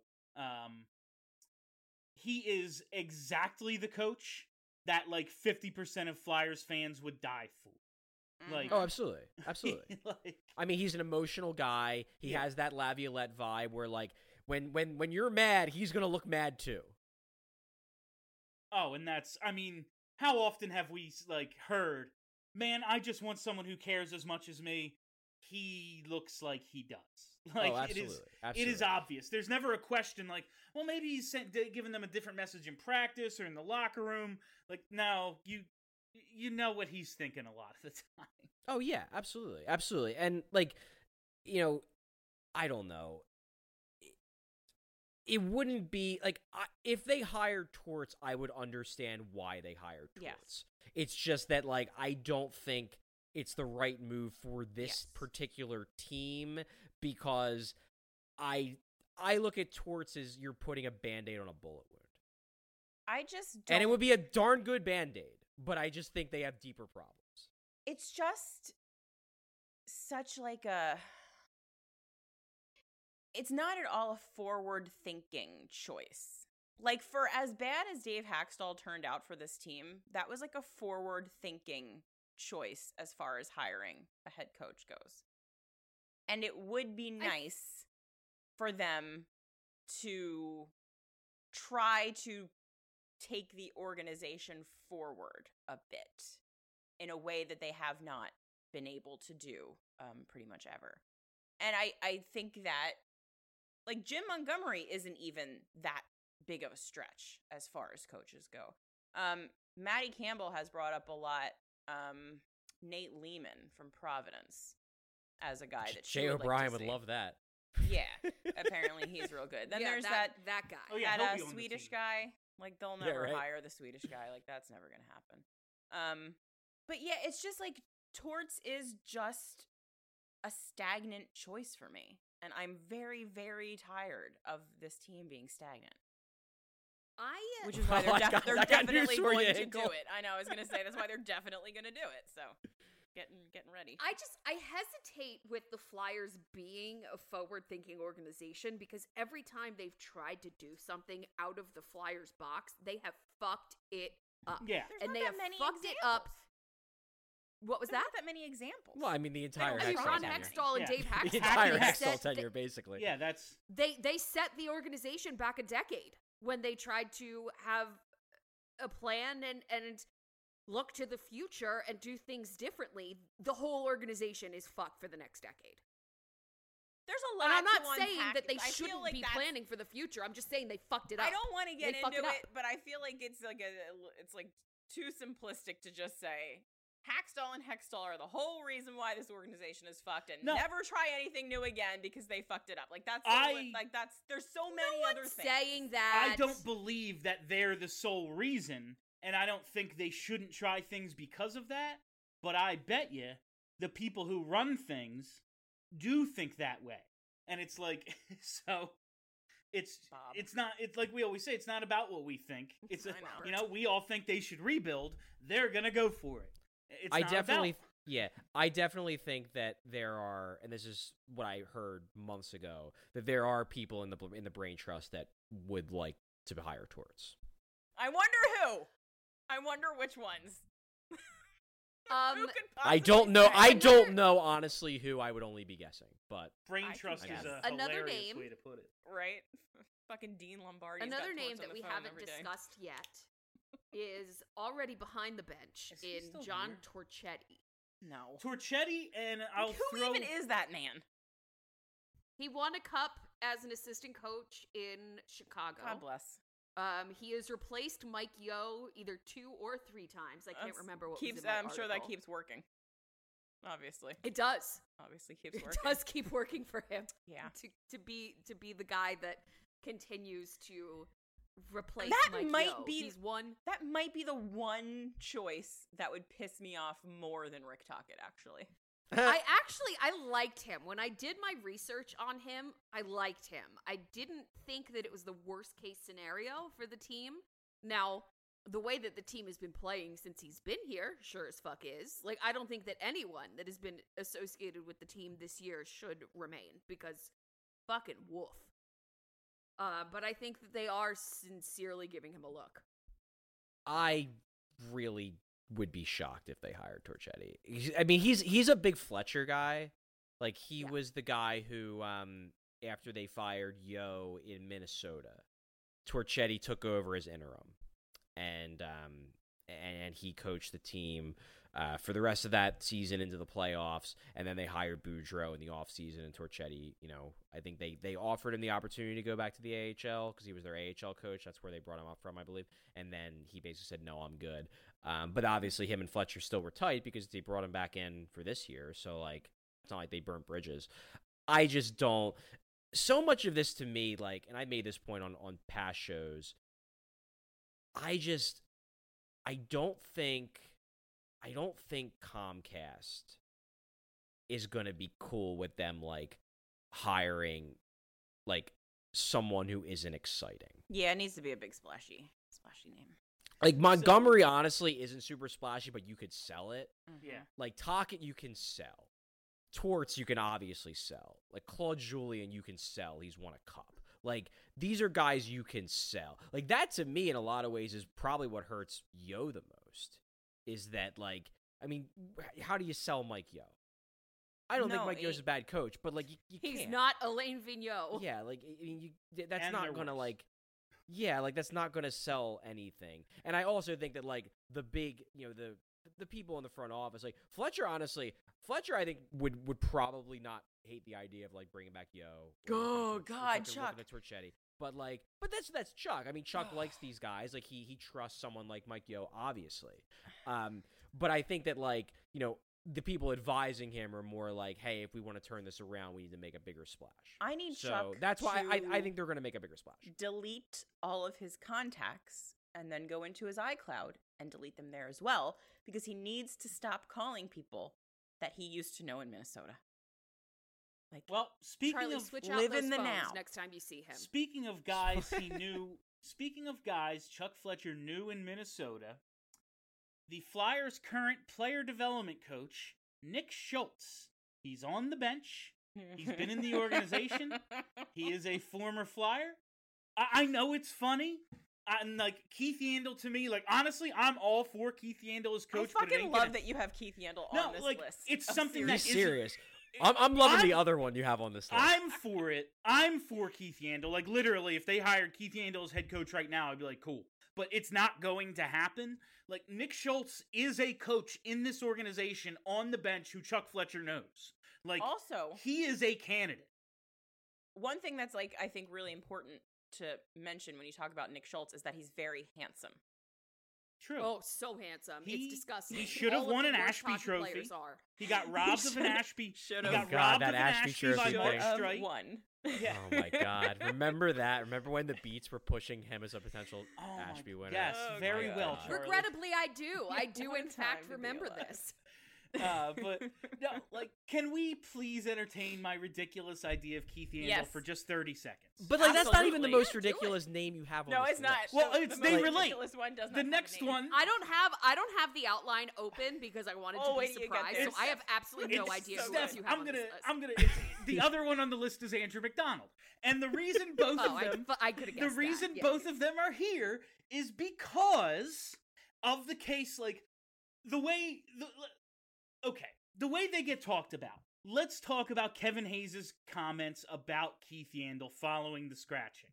He is exactly the coach that like 50% of Flyers fans would die for. Like, oh, absolutely. Absolutely. like, I mean, he's an emotional guy. He has that Laviolette vibe where, like, when you're mad, he's going to look mad too. Oh, and that's, I mean, how often have we, like, heard, man, I just want someone who cares as much as me. He looks like he does. Like, absolutely. It is obvious. There's never a question like, well, maybe he's giving them a different message in practice or in the locker room. Like, no, you know what he's thinking a lot of the time. Oh, yeah, absolutely. Absolutely. And, like, you know, I don't know. It wouldn't be, like, if they hired Torts, I would understand why they hired Torts. Yes. It's just that, like, I don't think it's the right move for this particular team, because I look at Torts as you're putting a Band-Aid on a bullet wound. I just don't... And it would be a darn good Band-Aid, but I just think they have deeper problems. It's just such like a... It's not at all a forward-thinking choice. Like, for as bad as Dave Haxtell turned out for this team, that was like a forward-thinking choice as far as hiring a head coach goes. And it would be nice for them to try to take the organization forward a bit in a way that they have not been able to do pretty much ever. And I think that, like, Jim Montgomery isn't even that big of a stretch as far as coaches go. Matty Campbell has brought up a lot Nate Lehman from Providence as a guy that Jay O'Brien would love that. Yeah, apparently he's real good. Then there's that guy. Oh, yeah, that he'll be on the Swedish team. guy. Like, they'll never hire the Swedish guy. Like, that's never gonna happen. But yeah, it's just like Torts is just a stagnant choice for me, and I'm very, very tired of this team being stagnant. Which is why they're definitely going to do it. I know, I was going to say, that's why they're definitely going to do it. So, getting ready. I hesitate with the Flyers being a forward-thinking organization, because every time they've tried to do something out of the Flyers box, they have fucked it up. Yeah. And they have fucked it up. What was There's that? not that many examples. Well, I mean, the entire I mean, Hextall Ron tenure. Hextall and Yeah. Dave Haxtell. The entire they Hextall set- tenure, basically. Yeah, that's... They set the organization back a decade when they tried to have a plan and look to the future and do things differently. The whole organization is fucked for the next decade. There's a lot And I'm not to saying unpack. that they I feel shouldn't like be that's- planning for the future. I'm just saying they fucked it up. I don't want to get They fucked into it it, up. but I feel like it's like it's like too simplistic to just say Haxtell and Hextall are the whole reason why this organization is fucked, and No. never try anything new again because they fucked it up. Like that's there's so many No other one's things. saying that. I don't believe that they're the sole reason, and I don't think they shouldn't try things because of that, but I bet you the people who run things do think that way. And it's like, so it's like we always say, it's not about what we think. It's, I know. we all think they should rebuild. They're going to go for it. It's I not definitely about Yeah, I definitely think that there are, and this is what I heard months ago, that there are people in the brain trust that would like to hire Torts. I wonder who. I wonder which ones. Who could I possibly don't know. say? I don't know honestly who. I would only be guessing, but Brain I can trust is guess. a Another hilarious name. way to put it. Right? Fucking Dean Lombardi. Another name that we haven't discussed yet is already behind the bench Is he in still John here? Torchetti. No. Torchetti, and I'll Who throw. even is that man? He won a cup as an assistant coach in Chicago. God bless. He has replaced Mike Yo either 2 or 3 times. I can't That's- remember what keeps. was in my I'm sure that article. keeps working. Obviously. It does. Obviously keeps It working. does keep working for him. Yeah. To be the guy that continues to replace That Mike might Yo. be- He's one. That might be the one choice that would piss me off more than Rick Tocchet, actually. I liked him. When I did my research on him, I liked him. I didn't think that it was the worst case scenario for the team. Now, the way that the team has been playing since he's been here, sure as fuck is. Like, I don't think that anyone that has been associated with the team this year should remain, because fucking woof. But I think that they are sincerely giving him a look. I really would be shocked if they hired Torchetti. I mean, he's a big Fletcher guy. Like, he Yeah. was the guy who, after they fired Yo in Minnesota, Torchetti took over as interim, and he coached the team for the rest of that season into the playoffs, and then they hired Boudreaux in the offseason, and Torchetti, I think they offered him the opportunity to go back to the AHL because he was their AHL coach. That's where they brought him up from, I believe, and then he basically said, no, I'm good. But obviously him and Fletcher still were tight because they brought him back in for this year, so, like, it's not like they burnt bridges. I just don't... So much of this to me, like, and I made this point on past shows, I don't think Comcast is going to be cool with them, like, hiring, like, someone who isn't exciting. Yeah, it needs to be a big splashy name. Like, Montgomery, honestly, isn't super splashy, but you could sell it. Yeah. Like, Tocchet, you can sell. Torts, you can obviously sell. Like, Claude Julien, you can sell. He's won a cup. Like, these are guys you can sell. Like, that, to me, in a lot of ways, is probably what hurts Yo the most. Is that, like, I mean, how do you sell Mike Yo? I don't think No, Mike Yo's a bad coach, but, like, you He's can't. not Alain Vigneault. Yeah, like, I mean, that's And not they're going to, worse. like... Yeah, like, that's not going to sell anything. And I also think that, like, the big, the people in the front office, like, Fletcher, I think, would probably not hate the idea of, like, bringing back Yo. Oh, or God, fucking Chuck. looking at Torchetti. But, like, that's Chuck. I mean, Chuck likes these guys. Like, he trusts someone like Mike Yo, obviously. But I think that, like, the people advising him are more like, hey, if we want to turn this around, we need to make a bigger splash. I need So Chuck that's why to I think they're going to make a bigger splash. delete all of his contacts and then go into his iCloud and delete them there as well, because he needs to stop calling people that he used to know in Minnesota. Like, Well, speaking Charlie, of switch out live those in the phones now. next time you see him. speaking of guys he knew, speaking of guys Chuck Fletcher knew in Minnesota, the Flyers' current player development coach, Nick Schultz, he's on the bench. He's been in the organization. He is a former Flyer. I know it's funny. And, like, Keith Yandel, to me, like, honestly, I'm all for Keith Yandel as coach. I but it fucking ain't love gonna- that you have Keith Yandel No, on this like, list. it's of something Be that serious- isn't- serious. I'm loving the I'm- other one you have on this list. I'm for it. I'm for Keith Yandel. Like, literally, if they hired Keith Yandel as head coach right now, I'd be like, cool. But it's not going to happen. Like, Nick Schultz is a coach in this organization on the bench who Chuck Fletcher knows. Like, Also, he is a candidate. one thing that's, like, I think really important to mention when you talk about Nick Schultz is that he's very handsome. True. Oh, so handsome. He- It's disgusting. he should have All of won the an worst Ashby hockey trophy. players are. He got robbed of an should've- Ashby. should've- He got Oh, God, robbed that of an Ashby Ashby by trophy Mark thing. Of Streit. one. Yeah. Oh my God! Remember that? Remember when the Beats were pushing him as a potential Oh my- Ashby winner? yes, Oh very my well, God. Charlie. Regrettably, I do. I do, What a in fact, time to be remember alive. this. But no, like, can we please entertain my ridiculous idea of Keith Yandle Yes. for just 30 seconds? But like that's not even the Absolutely. most Yeah, do it. ridiculous name you have on No, this it's not. list. Well, The it's- most they relate. ridiculous one does not The have a next name. one, I don't have the outline open because I wanted Oh, to wait be till you get surprised. there, So I have Steph. absolutely no it's- idea who Steph, else you have I'm on gonna, this list. I'm gonna. It's, the other one on the list is Andrew McDonald, and the reason both Oh, of them, I could have the guessed reason that. Yeah. both of them are here is because of the case, like the way the way they get talked about. Let's talk about Kevin Hayes' comments about Keith Yandle following the scratching.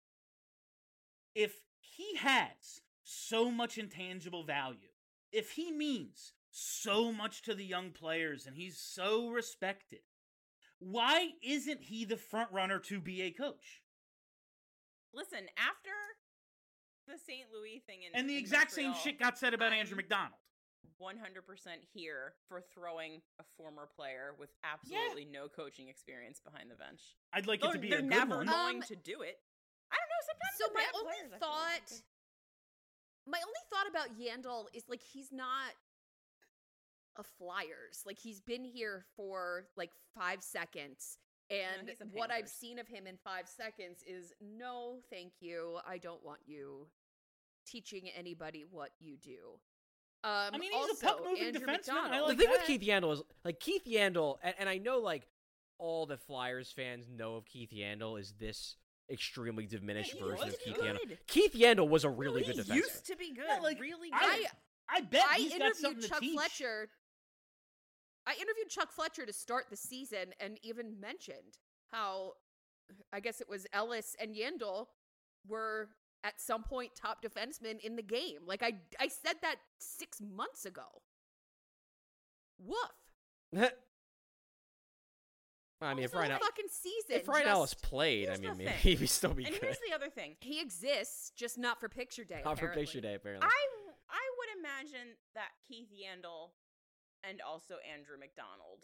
If he has so much intangible value, if he means so much to the young players and he's so respected, why isn't he the front runner to be a coach? Listen, after the St. Louis thing And the in exact same Montreal, shit got said about Andrew I'm McDonald. 100% here for throwing a former player with absolutely no coaching experience behind the bench. I'd like it to They're- be they're a good never one. going to do it. I don't know. Sometimes So they're my bad only players, I feel like. thought, my only thought about Yandle is like he's not a Flyers. Like he's been here for like 5 seconds, and he's a what I've Panthers. seen of him in 5 seconds is no, thank you. I don't want you teaching anybody what you do. I mean, he's also, a puck-moving Andrew defenseman. I McDonald. like the thing that. with Keith Yandle is like Keith Yandle, and I know like all the Flyers fans know of Keith Yandle is this extremely diminished he version was of Keith good. Yandle. Keith Yandle was a really he good defenseman. used to be good. Yeah, like, really I- good. I bet I he's got interviewed something to Chuck teach. Fletcher. I interviewed Chuck Fletcher to start the season and even mentioned how I guess it was Ellis and Yandle were at some point top defensemen in the game. Like I said that 6 months ago. Woof. I mean, if Whole Ryan, fucking season. if Ryan Ellis just- played, I Here's mean, the maybe thing. he'd still be And good. here's the other thing. he exists, just not for picture day. Not for apparently. picture day, apparently. I would imagine that Keith Yandle and also Andrew McDonald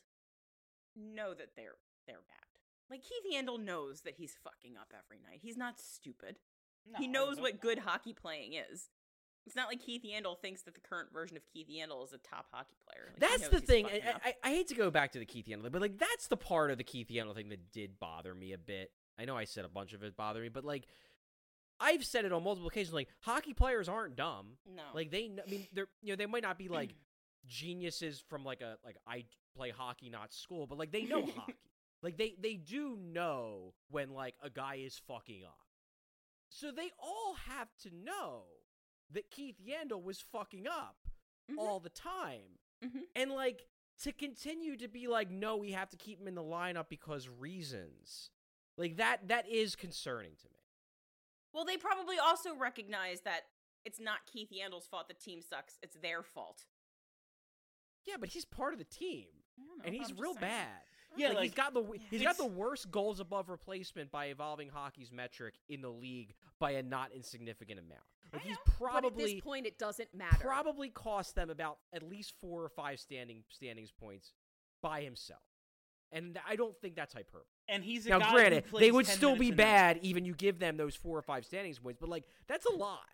know that they're bad. Like Keith Yandle knows that he's fucking up every night. He's not stupid. No, he I knows don't what know. good hockey playing is. It's not like Keith Yandle thinks that the current version of Keith Yandle is a top hockey player. Like, he That's knows the he's thing. fucking up. I hate to go back to the Keith Yandle, but like that's the part of the Keith Yandle thing that did bother me a bit. I know I said a bunch of it bothered me, but like I've said it on multiple occasions. Like hockey players aren't dumb. No. Like I mean, they're they might not be like geniuses from like I play hockey, not school, but like they know hockey. Like they do know when like a guy is fucking up. So they all have to know that Keith Yandle was fucking up Mhm. all the time. Mhm. And like to continue to be like, no, we have to keep him in the lineup because reasons. Like that is concerning to me. Well, they probably also recognize that it's not Keith Yandle's fault the team sucks. It's their fault. Yeah, but he's part of the team. I don't know, And but he's I'm just real saying. bad. Yeah, like, he's got it's- the worst goals above replacement by Evolving Hockey's metric in the league by a not insignificant amount. Like he's But at probably this point, it doesn't matter. probably cost them about at least 4 or 5 standings points by himself. And I don't think that's hyperbole. And he's a Now, guy who granted, plays they would 10 still be minutes a night. bad even you give them those 4 or 5 standings points, but like that's a lot.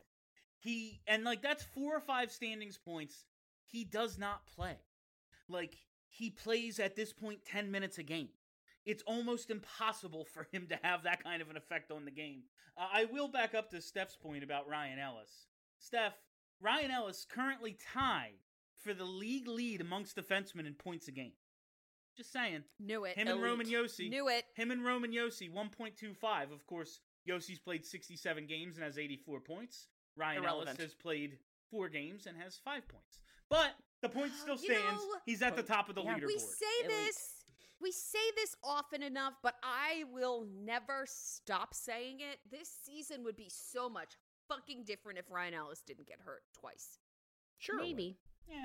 That's 4 or 5 standings points. He does not play. Like he plays at this point 10 minutes a game. It's almost impossible for him to have that kind of an effect on the game. I will back up to Steph's point about Ryan Ellis. Steph, Ryan Ellis currently tied for the league lead amongst defensemen in points a game. Just saying. Knew it. Him and Roman Yossi. Knew it. Him and Roman Yossi, 1.25. Of course, Yossi's played 67 games and has 84 points. Ryan Irrelevant. Ellis has played 4 games and has 5 points. But the point still You know, stands. He's at the top of the Yeah, leaderboard. We say this often enough, but I will never stop saying it. This season would be so much fucking different if Ryan Ellis didn't get hurt twice. Sure. it would. Maybe. Yeah.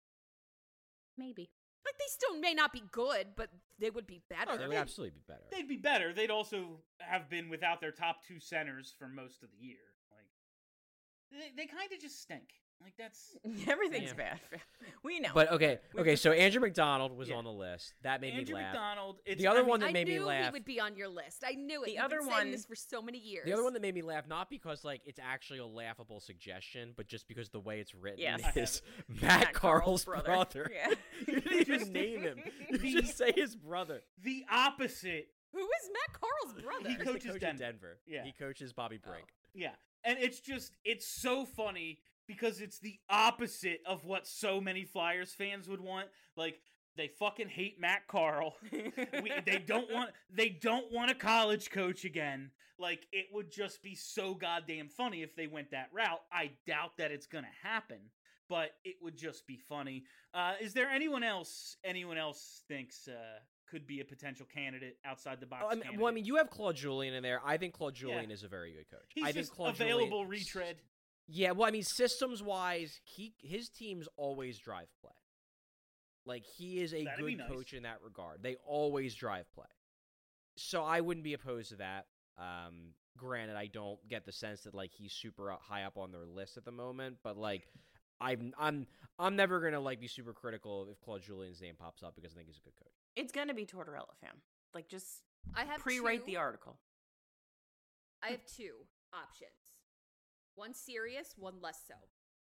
Maybe. Like they still may not be good, but they would be better. Oh, they would absolutely be better. They'd be better. They'd also have been without their top 2 centers for most of the year. Like, they kind of just stink. Like that's Everything's Yeah. bad. We know. But okay, We've okay. So Andrew McDonald was Yeah. on the list. That made Andrew me laugh. McDonald. It's, The other I mean, one that I made me knew laugh. he would be on your list. I knew it. The You've other been saying one- this for so many years. The other one that made me laugh, not because like it's actually a laughable suggestion, but just because the way it's written Yes. I is Matt Carl's brother. Yeah. You didn't even name him. You just say his brother. the opposite. Who is Matt Carl's brother? He He's the coaches coach Denver. in Denver. Yeah. He coaches Bobby Oh. Brink. Yeah. And it's so funny because it's the opposite of what so many Flyers fans would want. Like, they fucking hate Matt Carl. They don't want a college coach again. Like, it would just be so goddamn funny if they went that route. I doubt that it's gonna happen, but it would just be funny. Is there anyone else thinks could be a potential candidate outside the box? Oh, I mean, you have Claude Julien in there. I think Claude Julien Yeah. is a very good coach. He's I think just Claude available Julien, retread. Yeah, well, I mean, systems-wise, his teams always drive play. Like, he is a That'd be good nice. coach in that regard. They always drive play. So I wouldn't be opposed to that. Granted, I don't get the sense that like he's super high up on their list at the moment, but like, I'm never gonna like be super critical if Claude Julien's name pops up because I think he's a good coach. It's gonna be Tortorella, fam. Like, just I have pre-write two- the article. I have two options. One serious, one less so.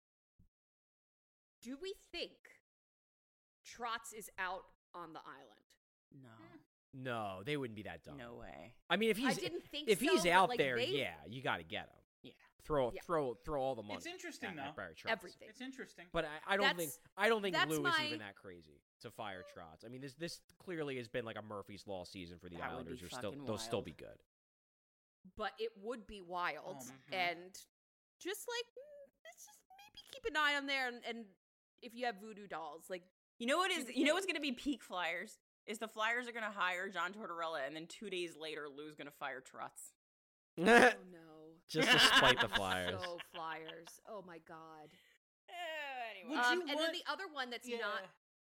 Do we think Trotz is out on the island? No. No, they wouldn't be that dumb. No way. I mean, if he's didn't think if so, he's but, out like, there, they- yeah, you got to get him. Yeah. Throw Yeah. all the money. It's interesting, at though. Barry Trotz. Everything. It's interesting. But I don't think that's Lou is my- even that crazy to fire Trotz. I mean, this clearly has been like a Murphy's Law season for the That would be Islanders. fucking They'll still wild. be good. But it would be wild. Mhm. And just like, let's just maybe keep an eye on there. And if you have voodoo dolls, like, You know what Do is? the You know thing. what's gonna be peak Flyers? Is the Flyers are gonna hire John Tortorella, and then 2 days later, Lou's gonna fire Trotz. oh no. Just to spite the Flyers. So Flyers. Oh my God. Anyway, Would you And then want- the other one that's Yeah. not,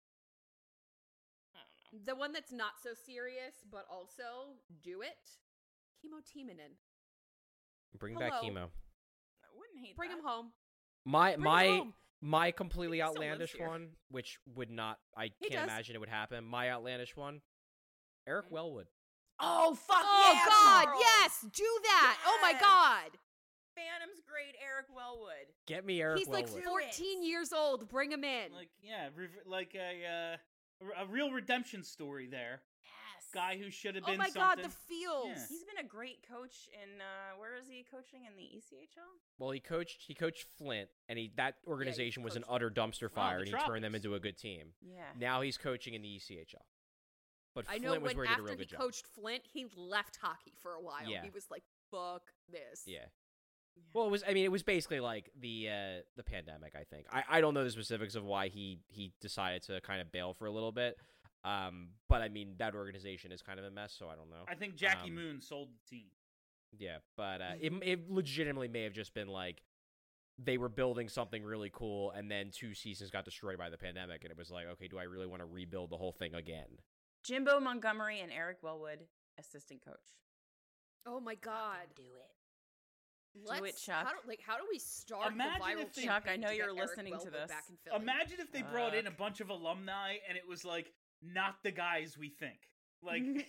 I don't know. the one that's not so serious, but also do it. Chemo Timonen. Bring back Hello. chemo. I wouldn't hate Bring that. him home. My Bring him my home. my completely He still lives outlandish here. one, which would not, I He can't does. imagine it would happen. My outlandish one, Eric Wellwood. Oh fuck Oh yeah, God, Carl! yes, do that. Oh my Yes. God. Phantom's great, Eric Wellwood. Get me Eric He's like Wellwood. 14 years old. Bring him in. Like like a real redemption story there. Yes. Guy who should have Oh been my something. God, the feels. Yeah. He's been a great coach in where is he coaching in the ECHL? Well, he coached Flint, and that organization was an coached utter dumpster fire, the and he turned them Tropics. into a good team. Yeah. Now he's coaching in the ECHL. But I Flint know was when where he did a after real he good job. coached Flint, he left hockey for a while. Yeah. He was like, "Fuck this." Yeah. Well, it was basically like the pandemic. I think I don't know the specifics of why he decided to kind of bail for a little bit. But I mean that organization is kind of a mess, so I don't know. I think Jackie Um, Moon sold the team. Yeah, but it legitimately may have just been like they were building something really cool, and then 2 seasons got destroyed by the pandemic, and it was like, okay, do I really want to rebuild the whole thing again? Jimbo Montgomery and Eric Wellwood, assistant coach. Oh my God. Do it. Let's, it, Chuck. How do we start Imagine the viral if they- Chuck, I campaign know to you're get Eric listening to Wellwood this. back in Philly? Imagine if they brought in a Fuck. bunch of alumni and it was like not the guys we think. Like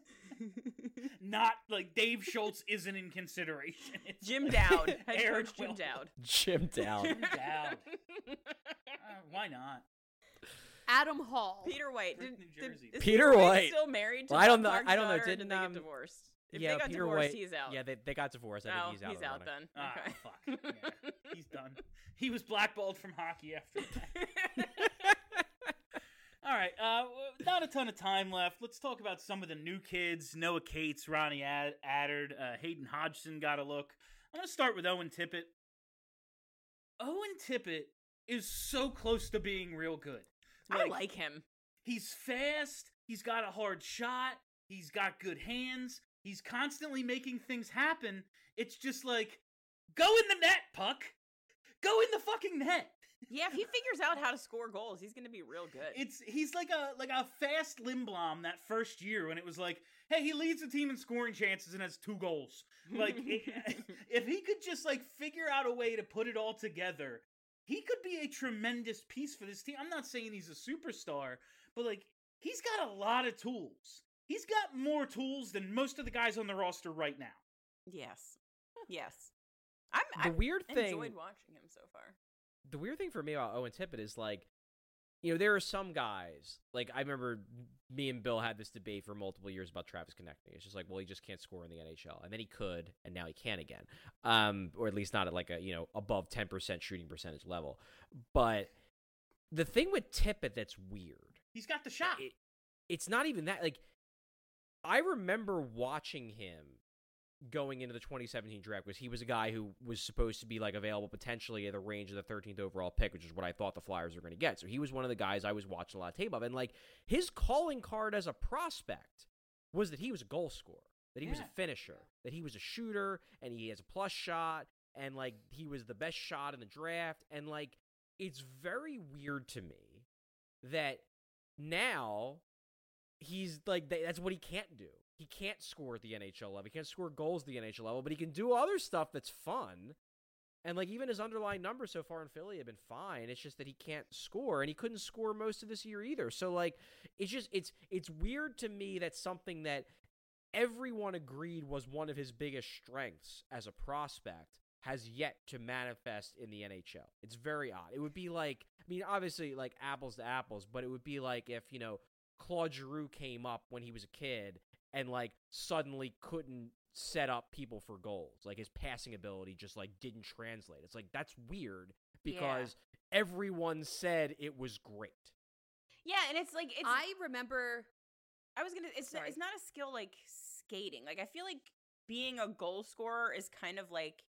not like Dave Schultz isn't in consideration. It's Jim like Dowd. Head Eric coach Jim Wellwood. Dowd. Jim Dowd. Jim Dowd. Why not? Adam Hall. Peter White. Frick, New Jersey. Is Peter White White. still married to Well, I don't Bob know- Clark's I don't know, daughter, or didn't, did they get um, divorced? If yeah, they got Peter divorced, White. he's out. Yeah, they got divorced. I no, think he's out. of the running. then. Ah, Okay. fuck. Yeah, he's done. He was blackballed from hockey after that. All right, not a ton of time left. Let's talk about some of the new kids. Noah Cates, Ronnie Addard, Hayden Hodgson got a look. I'm going to start with Owen Tippett. Owen Tippett is so close to being real good. I like him. He's fast. He's got a hard shot. He's got good hands. He's constantly making things happen. It's just like, go in the net, puck. Go in the fucking net. Yeah, if he figures out how to score goals, he's going to be real good. He's like a fast Lindblom that first year when it was like, hey, he leads the team in scoring chances and has 2 goals. Like if he could just like figure out a way to put it all together, he could be a tremendous piece for this team. I'm not saying he's a superstar, but like he's got a lot of tools. He's got more tools than most of the guys on the roster right now. Yes. Yes. The weird thing. enjoyed watching him so far. The weird thing for me about Owen Tippett is like, you know, there are some guys, like I remember me and Bill had this debate for multiple years about Travis Konechny. It's just like, well, he just can't score in the NHL. And then he could, and now he can again. Or at least not at like a, you know, above 10% shooting percentage level. But the thing with Tippett that's weird. He's got the shot. It's not even that. Like, I remember watching him going into the 2017 draft because he was a guy who was supposed to be like available potentially at the range of the 13th overall pick, which is what I thought the Flyers were going to get. So he was one of the guys I was watching a lot of tape of. And like his calling card as a prospect was that he was a goal scorer, that he was a finisher, that he was a shooter, and he has a plus shot, and like he was the best shot in the draft. And like it's very weird to me that now he's like that's what he can't do. He can't score at the NHL level. He can't score goals at the NHL level, but he can do other stuff that's fun. And like even his underlying numbers so far in Philly have been fine. It's just that he can't score, and he couldn't score most of this year either. So like it's just it's weird to me that something that everyone agreed was one of his biggest strengths as a prospect has yet to manifest in the NHL. It's very odd. It would be like, I mean, obviously like apples to apples, but it would be like if, you know, Claude Giroux came up when he was a kid and like suddenly couldn't set up people for goals. Like his passing ability just like didn't translate. It's like that's weird because everyone said it was great. Yeah, and it's like I remember. It's not a skill like skating. Like I feel like being a goal scorer is kind of like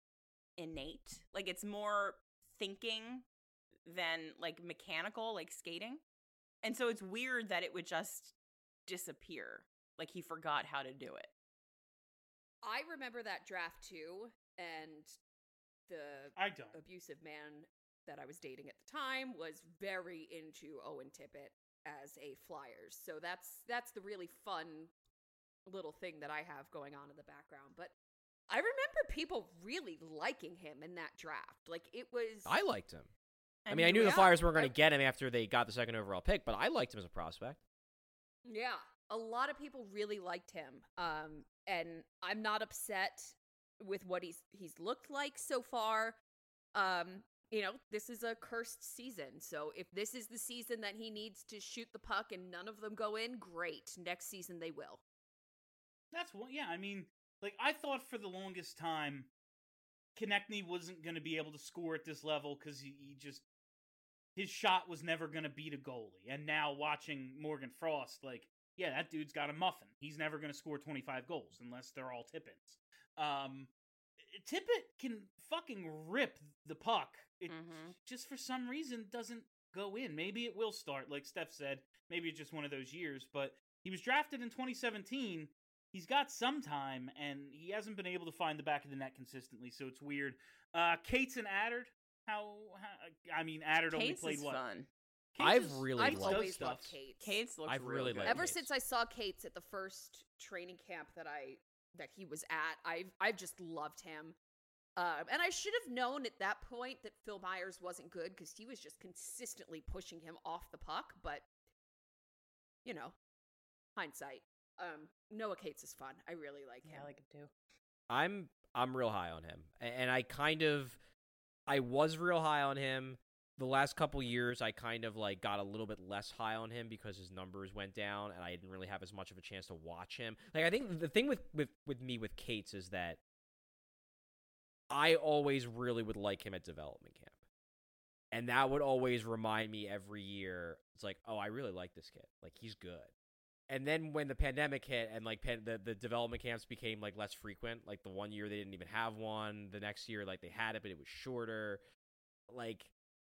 innate. Like it's more thinking than like mechanical, like skating. And so it's weird that it would just disappear. Like he forgot how to do it. I remember that draft too, and the abusive man that I was dating at the time was very into Owen Tippett as a Flyers. So that's the really fun little thing that I have going on in the background. But I remember people really liking him in that draft. Like it was. I liked him. I mean, I knew the Flyers weren't going to get him after they got the second overall pick, but I liked him as a prospect. Yeah, a lot of people really liked him, and I'm not upset with what he's looked like so far. You know, this is a cursed season, so if this is the season that he needs to shoot the puck and none of them go in, great. Next season they will. That's what. Yeah, I mean, like I thought for the longest time, Konechny wasn't going to be able to score at this level because he just. His shot was never going to beat a goalie. And now watching Morgan Frost, like, yeah, that dude's got a muffin. He's never going to score 25 goals unless they're all Tippins. Tippett can fucking rip the puck. It just for some reason doesn't go in. Maybe it will start, like Steph said. Maybe it's just one of those years. But he was drafted in 2017. He's got some time, and he hasn't been able to find the back of the net consistently, so it's weird. Cates and Adder. I mean, Adder only played what? Fun. I've always loved Cates. Cates looks really good. Ever since I saw Cates at the first training camp that he was at, I've just loved him. And I should have known at that point that Phil Myers wasn't good because he was just consistently pushing him off the puck. But you know, hindsight. Noah Cates is fun. I really like him. I like him too. I'm real high on him, and I was real high on him. The last couple years, I kind of like got a little bit less high on him because his numbers went down, and I didn't really have as much of a chance to watch him. Like I think the thing with me with Cates is that I always really would like him at development camp, and that would always remind me every year. It's like, oh, I really like this kid. Like he's good. And then when the pandemic hit and like the development camps became like less frequent, like the one year they didn't even have one, the next year like they had it but it was shorter. Like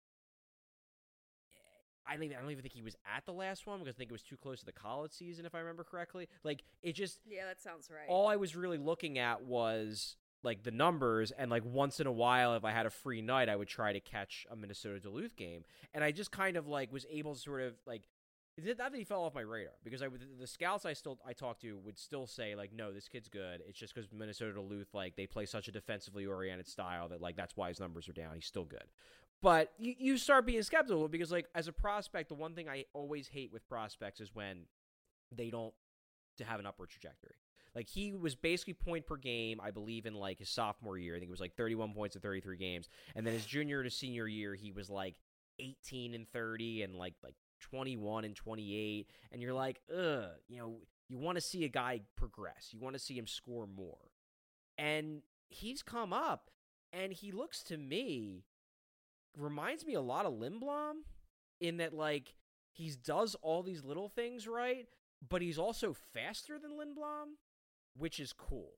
I don't even think he was at the last one because I think it was too close to the college season if I remember correctly. Like it just yeah, that sounds right. All I was really looking at was like the numbers, and like once in a while if I had a free night I would try to catch a Minnesota Duluth game, and I just kind of like was able to sort of like. It's not that he fell off my radar because the scouts I talked to would still say like, no, this kid's good. It's just because Minnesota Duluth, like they play such a defensively oriented style that like that's why his numbers are down. He's still good. But you start being skeptical because, like, as a prospect, the one thing I always hate with prospects is when they don't have an upward trajectory. Like, he was basically point per game, I believe, in, like, his sophomore year. I think it was, like, 31 points in 33 games. And then his junior to senior year, he was, like, 18 and 30 and, like 21 and 28. And you're like, you want to see a guy progress. You want to see him score more. And he's come up, and he looks to me... reminds me a lot of Lindblom in that, like, he does all these little things right, but he's also faster than Lindblom, which is cool.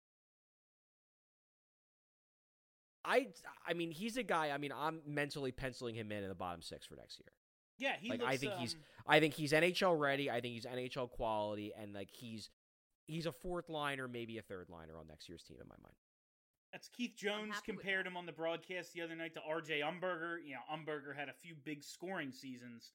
I mean, he's a guy, I mean, I'm mentally penciling him in the bottom 6 for next year. Yeah, he like, looks, I think he's NHL ready. I think he's NHL quality, and, like, he's a 4th liner, maybe a 3rd liner on next year's team in my mind. That's Keith Jones compared him on the broadcast the other night to R.J. Umberger. You know, Umberger had a few big scoring seasons.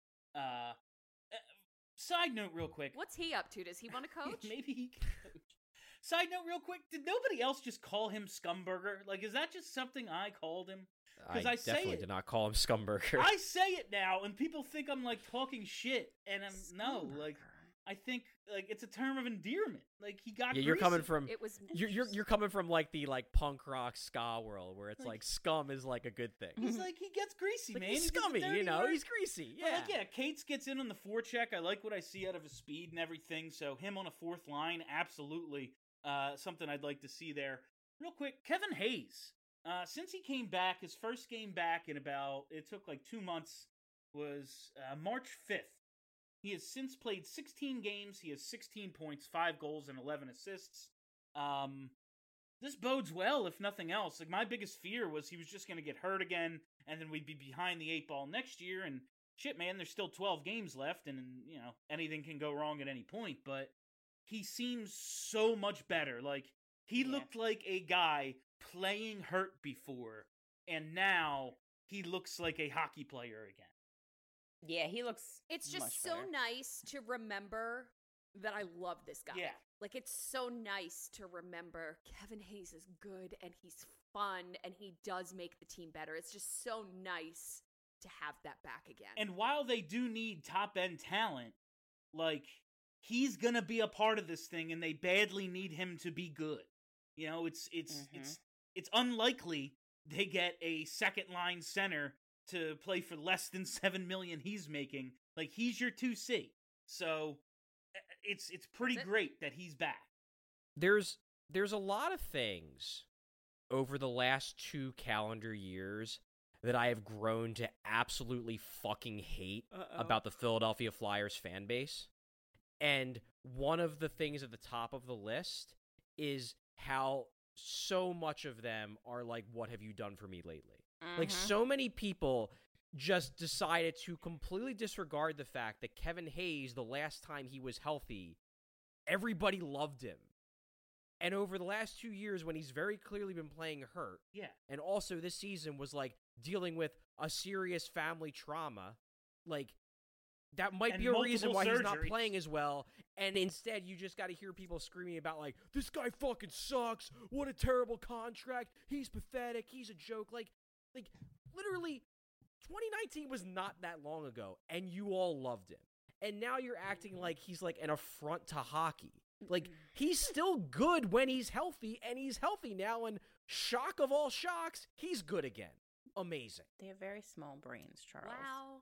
Side note real quick. What's he up to? Does he want to coach? Maybe he can coach. Side note real quick. Did nobody else just call him Scumburger? Like, is that just something I called him? I definitely did not call him Scumburger. I say it now, and people think I'm, like, talking shit. And I think, like, it's a term of endearment. Like, he got you're greasy. coming from It was you're coming from, like, the, like, punk rock ska world where it's like scum is like a good thing. He's like, he gets greasy, like, man. he's He gets scummy, dirty work. he's greasy. But, Yeah. like, yeah, Cates gets in on the forecheck. I like what I see out of his speed and everything. So him on a 4th line, absolutely something I'd like to see there. Real quick, Kevin Hayes. Since he came back, his first game back in it took like 2 months, was March 5th. He has since played 16 games. He has 16 points, 5 goals, and 11 assists. This bodes well, if nothing else. Like, my biggest fear was he was just going to get hurt again, and then we'd be behind the 8 ball next year. And shit, man, there's still 12 games left, and you know, anything can go wrong at any point. But he seems so much better. Like, he looked like a guy playing hurt before, and now he looks like a hockey player again. Yeah, he looks. It's just much so better. nice to remember that I love this guy. Yeah. Like, it's so nice to remember Kevin Hayes is good and he's fun and he does make the team better. It's just so nice to have that back again. And while they do need top-end talent, like, he's gonna be a part of this thing, and they badly need him to be good. You know, it's unlikely they get a second-line center to play for less than $7 million he's making. Like, he's your 2C. So it's pretty great that he's back. There's a lot of things over the last 2 calendar years that I have grown to absolutely fucking hate about the Philadelphia Flyers fan base. And one of the things at the top of the list is how so much of them are like, what have you done for me lately? Like, so many people just decided to completely disregard the fact that Kevin Hayes, the last time he was healthy, everybody loved him. And over the last 2 years, when he's very clearly been playing hurt, and also this season was, like, dealing with a serious family trauma, like, that might be a reason why he's not playing as well, and instead you just got to hear people screaming about, like, this guy fucking sucks, what a terrible contract, he's pathetic, he's a joke, like, literally, 2019 was not that long ago, and you all loved him. And now you're acting like he's, like, an affront to hockey. Like, he's still good when he's healthy, and he's healthy now, and shock of all shocks, he's good again. Amazing. They have very small brains, Charles. Wow.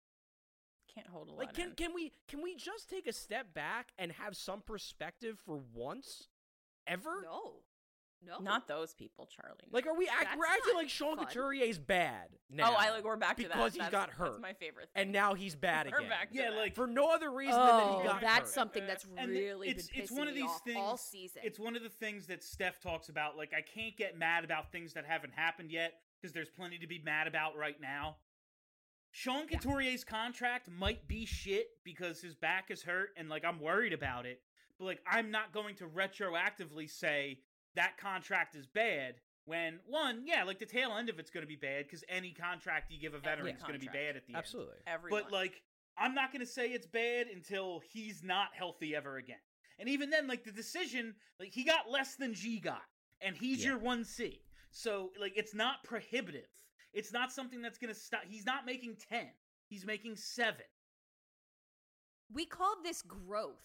Can't hold a lot Like, can we just take a step back and have some perspective for once? Ever? No. Not those people, Charlie. Like, we're acting like Sean Couturier's bad now. We're back to that. Because he got hurt. That's my favorite. And now he's bad again. We're back to Yeah, that. like, for no other reason than that he got hurt. That's something that's And really it's been pissing one of me these off things, all season. It's one of the things that Steph talks about. Like, I can't get mad about things that haven't happened yet because there's plenty to be mad about right now. Sean Couturier's contract might be shit because his back is hurt and, like, I'm worried about it. But, like, I'm not going to retroactively say that contract is bad when, one, like, the tail end of it's going to be bad because any contract you give a veteran is going to be bad at the end. Absolutely. Everyone. But, like, I'm not going to say it's bad until he's not healthy ever again. And even then, like, the decision, like, he got less than G got, and he's your 1C. So, like, it's not prohibitive. It's not something that's going to stop. He's not making 10. He's making 7. We called this growth.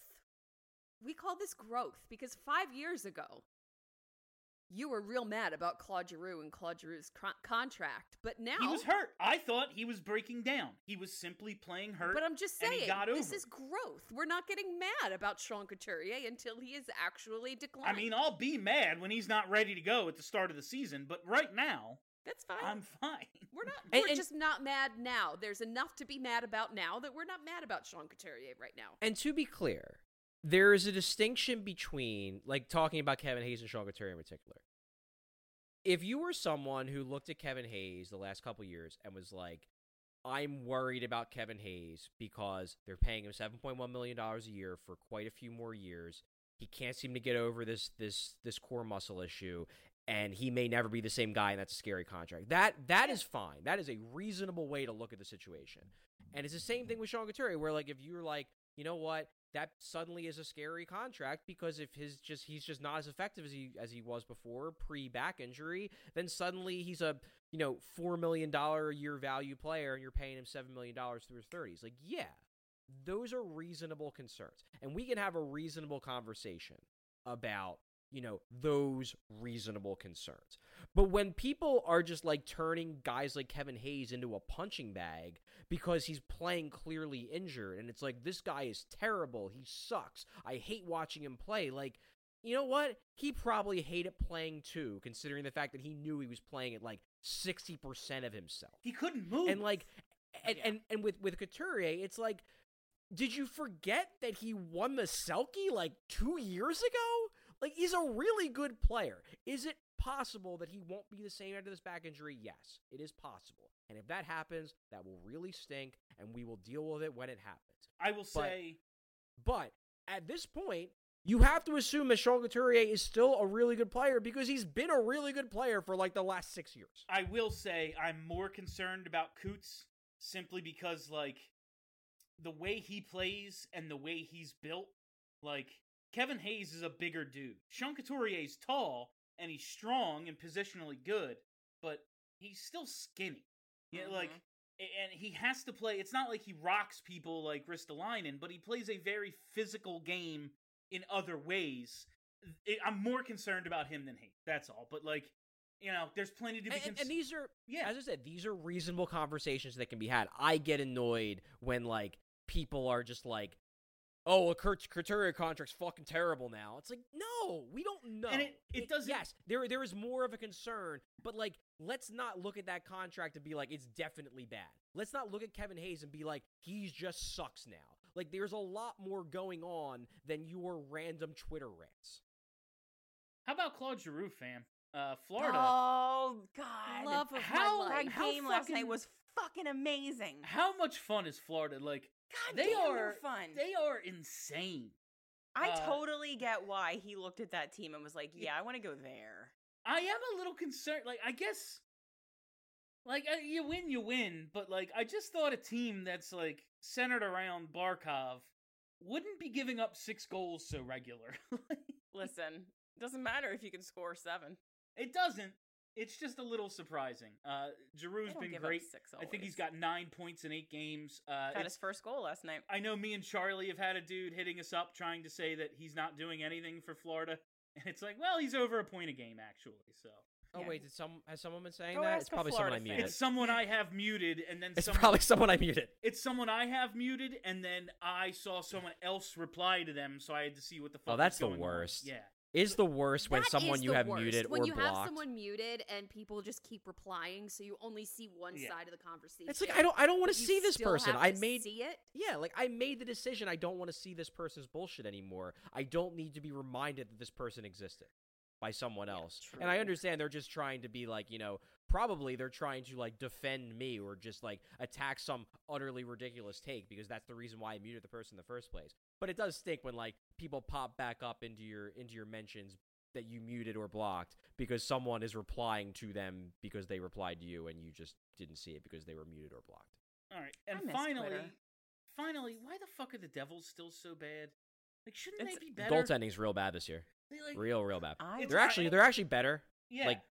Because 5 years ago, you were real mad about Claude Giroux and Claude Giroux's contract, but now He was hurt. I thought he was breaking down. He was simply playing hurt. But I'm just and he saying, got this over is it. growth. We're not getting mad about Sean Couturier until he is actually declining. I mean, I'll be mad when he's not ready to go at the start of the season, but right now, that's fine. I'm fine. We're not. And- we're and- just not mad now. There's enough to be mad about now that we're not mad about Sean Couturier right now. And to be clear, there is a distinction between, like, talking about Kevin Hayes and Sean Couturier in particular. If you were someone who looked at Kevin Hayes the last couple years and was like, I'm worried about Kevin Hayes because they're paying him $7.1 million a year for quite a few more years. He can't seem to get over this core muscle issue, and he may never be the same guy, and that's a scary contract. That is fine. That is a reasonable way to look at the situation. And it's the same thing with Sean Couturier, where, like, if you're like, you know what, that suddenly is a scary contract because if he's just not as effective as he was before pre-back injury, then suddenly he's a $4 million a year value player and you're paying him $7 million through his 30s. Like, yeah, those are reasonable concerns, and we can have a reasonable conversation about those reasonable concerns. But when people are just like turning guys like Kevin Hayes into a punching bag because he's playing clearly injured, and it's like, this guy is terrible, he sucks, I hate watching him play, like, you know what? He probably hated playing too, considering the fact that he knew he was playing at like 60% of himself. He couldn't move. And like, and with Couturier, it's like, did you forget that he won the Selke like 2 years ago? Like, he's a really good player. Is it possible that he won't be the same after this back injury? Yes, it is possible. And if that happens, that will really stink, and we will deal with it when it happens. I will say... But at this point, you have to assume that Sean Couturier is still a really good player because he's been a really good player for like the last 6 years. I will say I'm more concerned about Coots simply because, like, the way he plays and the way he's built, like... Kevin Hayes is a bigger dude. Sean Couturier's tall, and he's strong and positionally good, but he's still skinny. Yeah, like, and he has to play. It's not like he rocks people like Ristolainen, but he plays a very physical game in other ways. I'm more concerned about him than Hayes. That's all. But, like, there's plenty to be concerned. And these are, as I said, these are reasonable conversations that can be had. I get annoyed when, like, people are just like, oh, a Couturier contract's fucking terrible now. It's like, no, we don't know. And it doesn't... Yes, there is more of a concern, but, like, let's not look at that contract and be like, it's definitely bad. Let's not look at Kevin Hayes and be like, he just sucks now. Like, there's a lot more going on than your random Twitter rants. How about Claude Giroux, fam? Florida. Oh, God. Love of How- my life. That game last fucking- night was fucking amazing. How much fun is Florida? Like, God they damn, are they're fun. They are insane. I totally get why he looked at that team and was like, yeah, I want to go there. I am a little concerned. Like, I guess, like, you win, but, like, I just thought a team that's, like, centered around Barkov wouldn't be giving up 6 goals so regular. Listen, doesn't matter if you can score 7. It doesn't. It's just a little surprising. Giroux's They don't been give up great. 6 I think he's always. got 9 points in 8 games. Got It's- his first goal last night. I know me and Charlie have had a dude hitting us up trying to say that he's not doing anything for Florida. And it's like, well, he's over a point a game, actually, so. Oh, Yeah. wait, has someone been saying Go that? ask It's a probably someone I Florida muted. It's someone I have muted, and then It's someone... probably someone I muted. It's someone I have muted, and then I saw someone else reply to them, so I had to see what the fuck Oh, that's was the going on. worst. Yeah. Is the worst when That someone is you the have worst. muted when or you blocked. have someone muted and people just keep replying, so you only see one Yeah. side of the conversation. It's like, I don't want but to you see this still person. have I to made see it. Yeah, like, I made the decision. I don't want to see this person's bullshit anymore. I don't need to be reminded that this person existed by someone else. And I true. understand they're just trying to be like, probably they're trying to, like, defend me or just, like, attack some utterly ridiculous take because that's the reason why I muted the person in the first place. But it does stink when, like, people pop back up into your mentions that you muted or blocked because someone is replying to them because they replied to you and you just didn't see it because they were muted or blocked. All right. I And miss finally, Twitter. why the fuck are the Devils still so bad? Like, shouldn't It's- they be better? Goaltending's real bad this year. They, like, real bad. I They're actually better. Yeah. Like,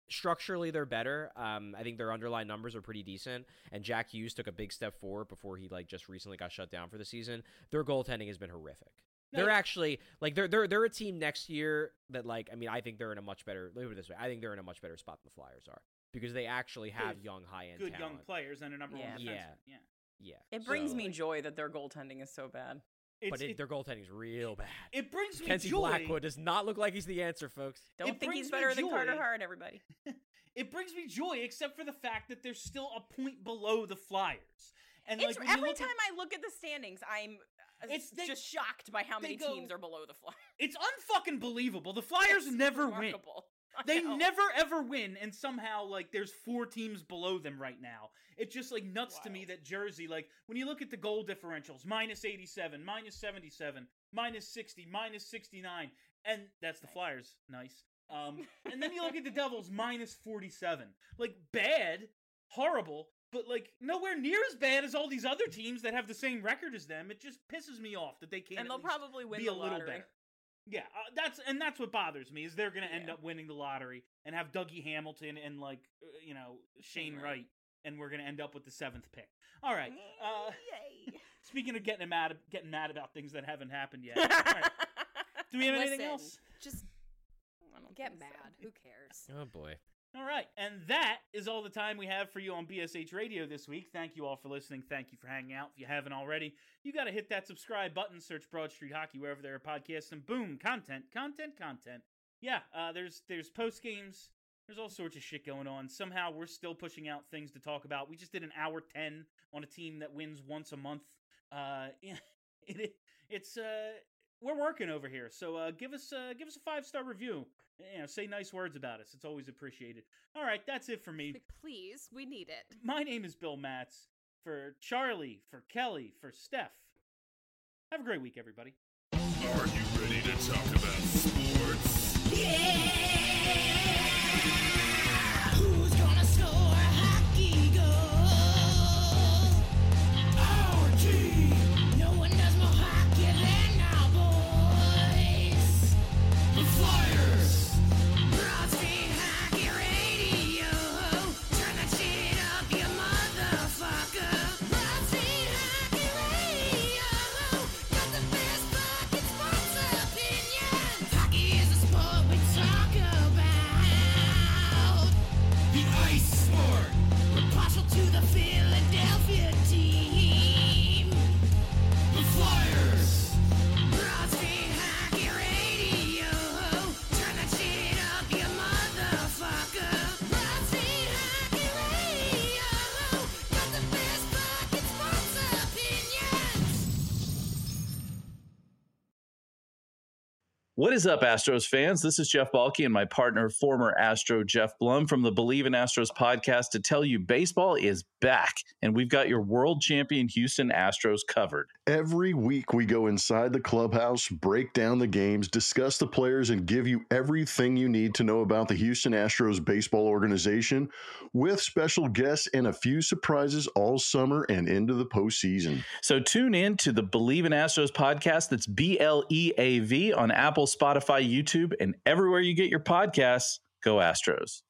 structurally they're better. I think their underlying numbers are pretty decent, and Jack Hughes took a big step forward before he just recently got shut down for the season. Their goaltending has been horrific. They're actually they're a team next year that I think they're in a much better. Leave it this way, I think they're in a much better spot than the Flyers are because they actually have young, high-end, good talent. young players and a number one defenseman. Yeah. It brings me joy that their goaltending is so bad. Their goaltending is real bad. It brings me Kenzie joy. Blackwood does not look like he's the answer, folks. Don't think he's better than Carter Hart, everybody. It brings me joy, except for the fact that they're still a point below the Flyers. And It's every time I look at the standings, I'm just shocked by how many teams are below the Flyers. It's unfucking believable. The Flyers never remarkable. win. They never ever win, and somehow there's 4 teams below them right now. It's just nuts to me that Jersey, when you look at the goal differentials, -87, -77, -60, -69, and that's the Flyers. Nice. And then you look at the Devils, -47. Bad, horrible, but nowhere near as bad as all these other teams that have the same record as them. It just pisses me off that they can't. And they'll probably win be the a little lottery. better. Yeah, that's what bothers me is they're going to end up winning the lottery and have Dougie Hamilton and Shane Wright, and we're going to end up with the 7th pick. All right. Yay! Speaking of getting mad about things that haven't happened yet. All right. Do we have anything else? Just get mad. Who cares? Oh boy. All right, and that is all the time we have for you on BSH Radio this week. Thank you all for listening. Thank you for hanging out. If you haven't already, you got to hit that subscribe button, search Broad Street Hockey wherever there are podcasts, and boom, content. Yeah, there's post games. There's all sorts of shit going on. Somehow we're still pushing out things to talk about. We just did an hour 10 on a team that wins once a month. We're working over here, so give us a 5-star review. Say nice words about us. It's always appreciated. All right, that's it for me. Please, we need it. My name is Bill Matz. For Charlie, for Kelly, for Steph. Have a great week, everybody. Are you ready to talk about sports? Who's gonna score a hockey goal? Our team. No one does more hockey than our boys. The Flyers. Broad Street Hockey Radio. Turn that shit up, you motherfucker. Broad Street Hockey Radio. Got the best fucking sports opinions. Hockey is a sport we talk about. The ice sport. We're partial to the Philadelphia team. The Flyers. Broad Street Hockey Radio. Turn that shit up, you motherfucker. Broad Street Hockey Radio. Got the best fucking sports opinions. What is up, Astros fans? This is Jeff Balke and my partner, former Astro Jeff Blum from the Believe in Astros podcast to tell you baseball is back, and we've got your world champion Houston Astros covered. Every week we go inside the clubhouse, break down the games, discuss the players, and give you everything you need to know about the Houston Astros baseball organization with special guests and a few surprises all summer and into the postseason. So tune in to the Believe in Astros podcast. That's BLEAV on Apple, Spotify, YouTube, and everywhere you get your podcasts. Go Astros.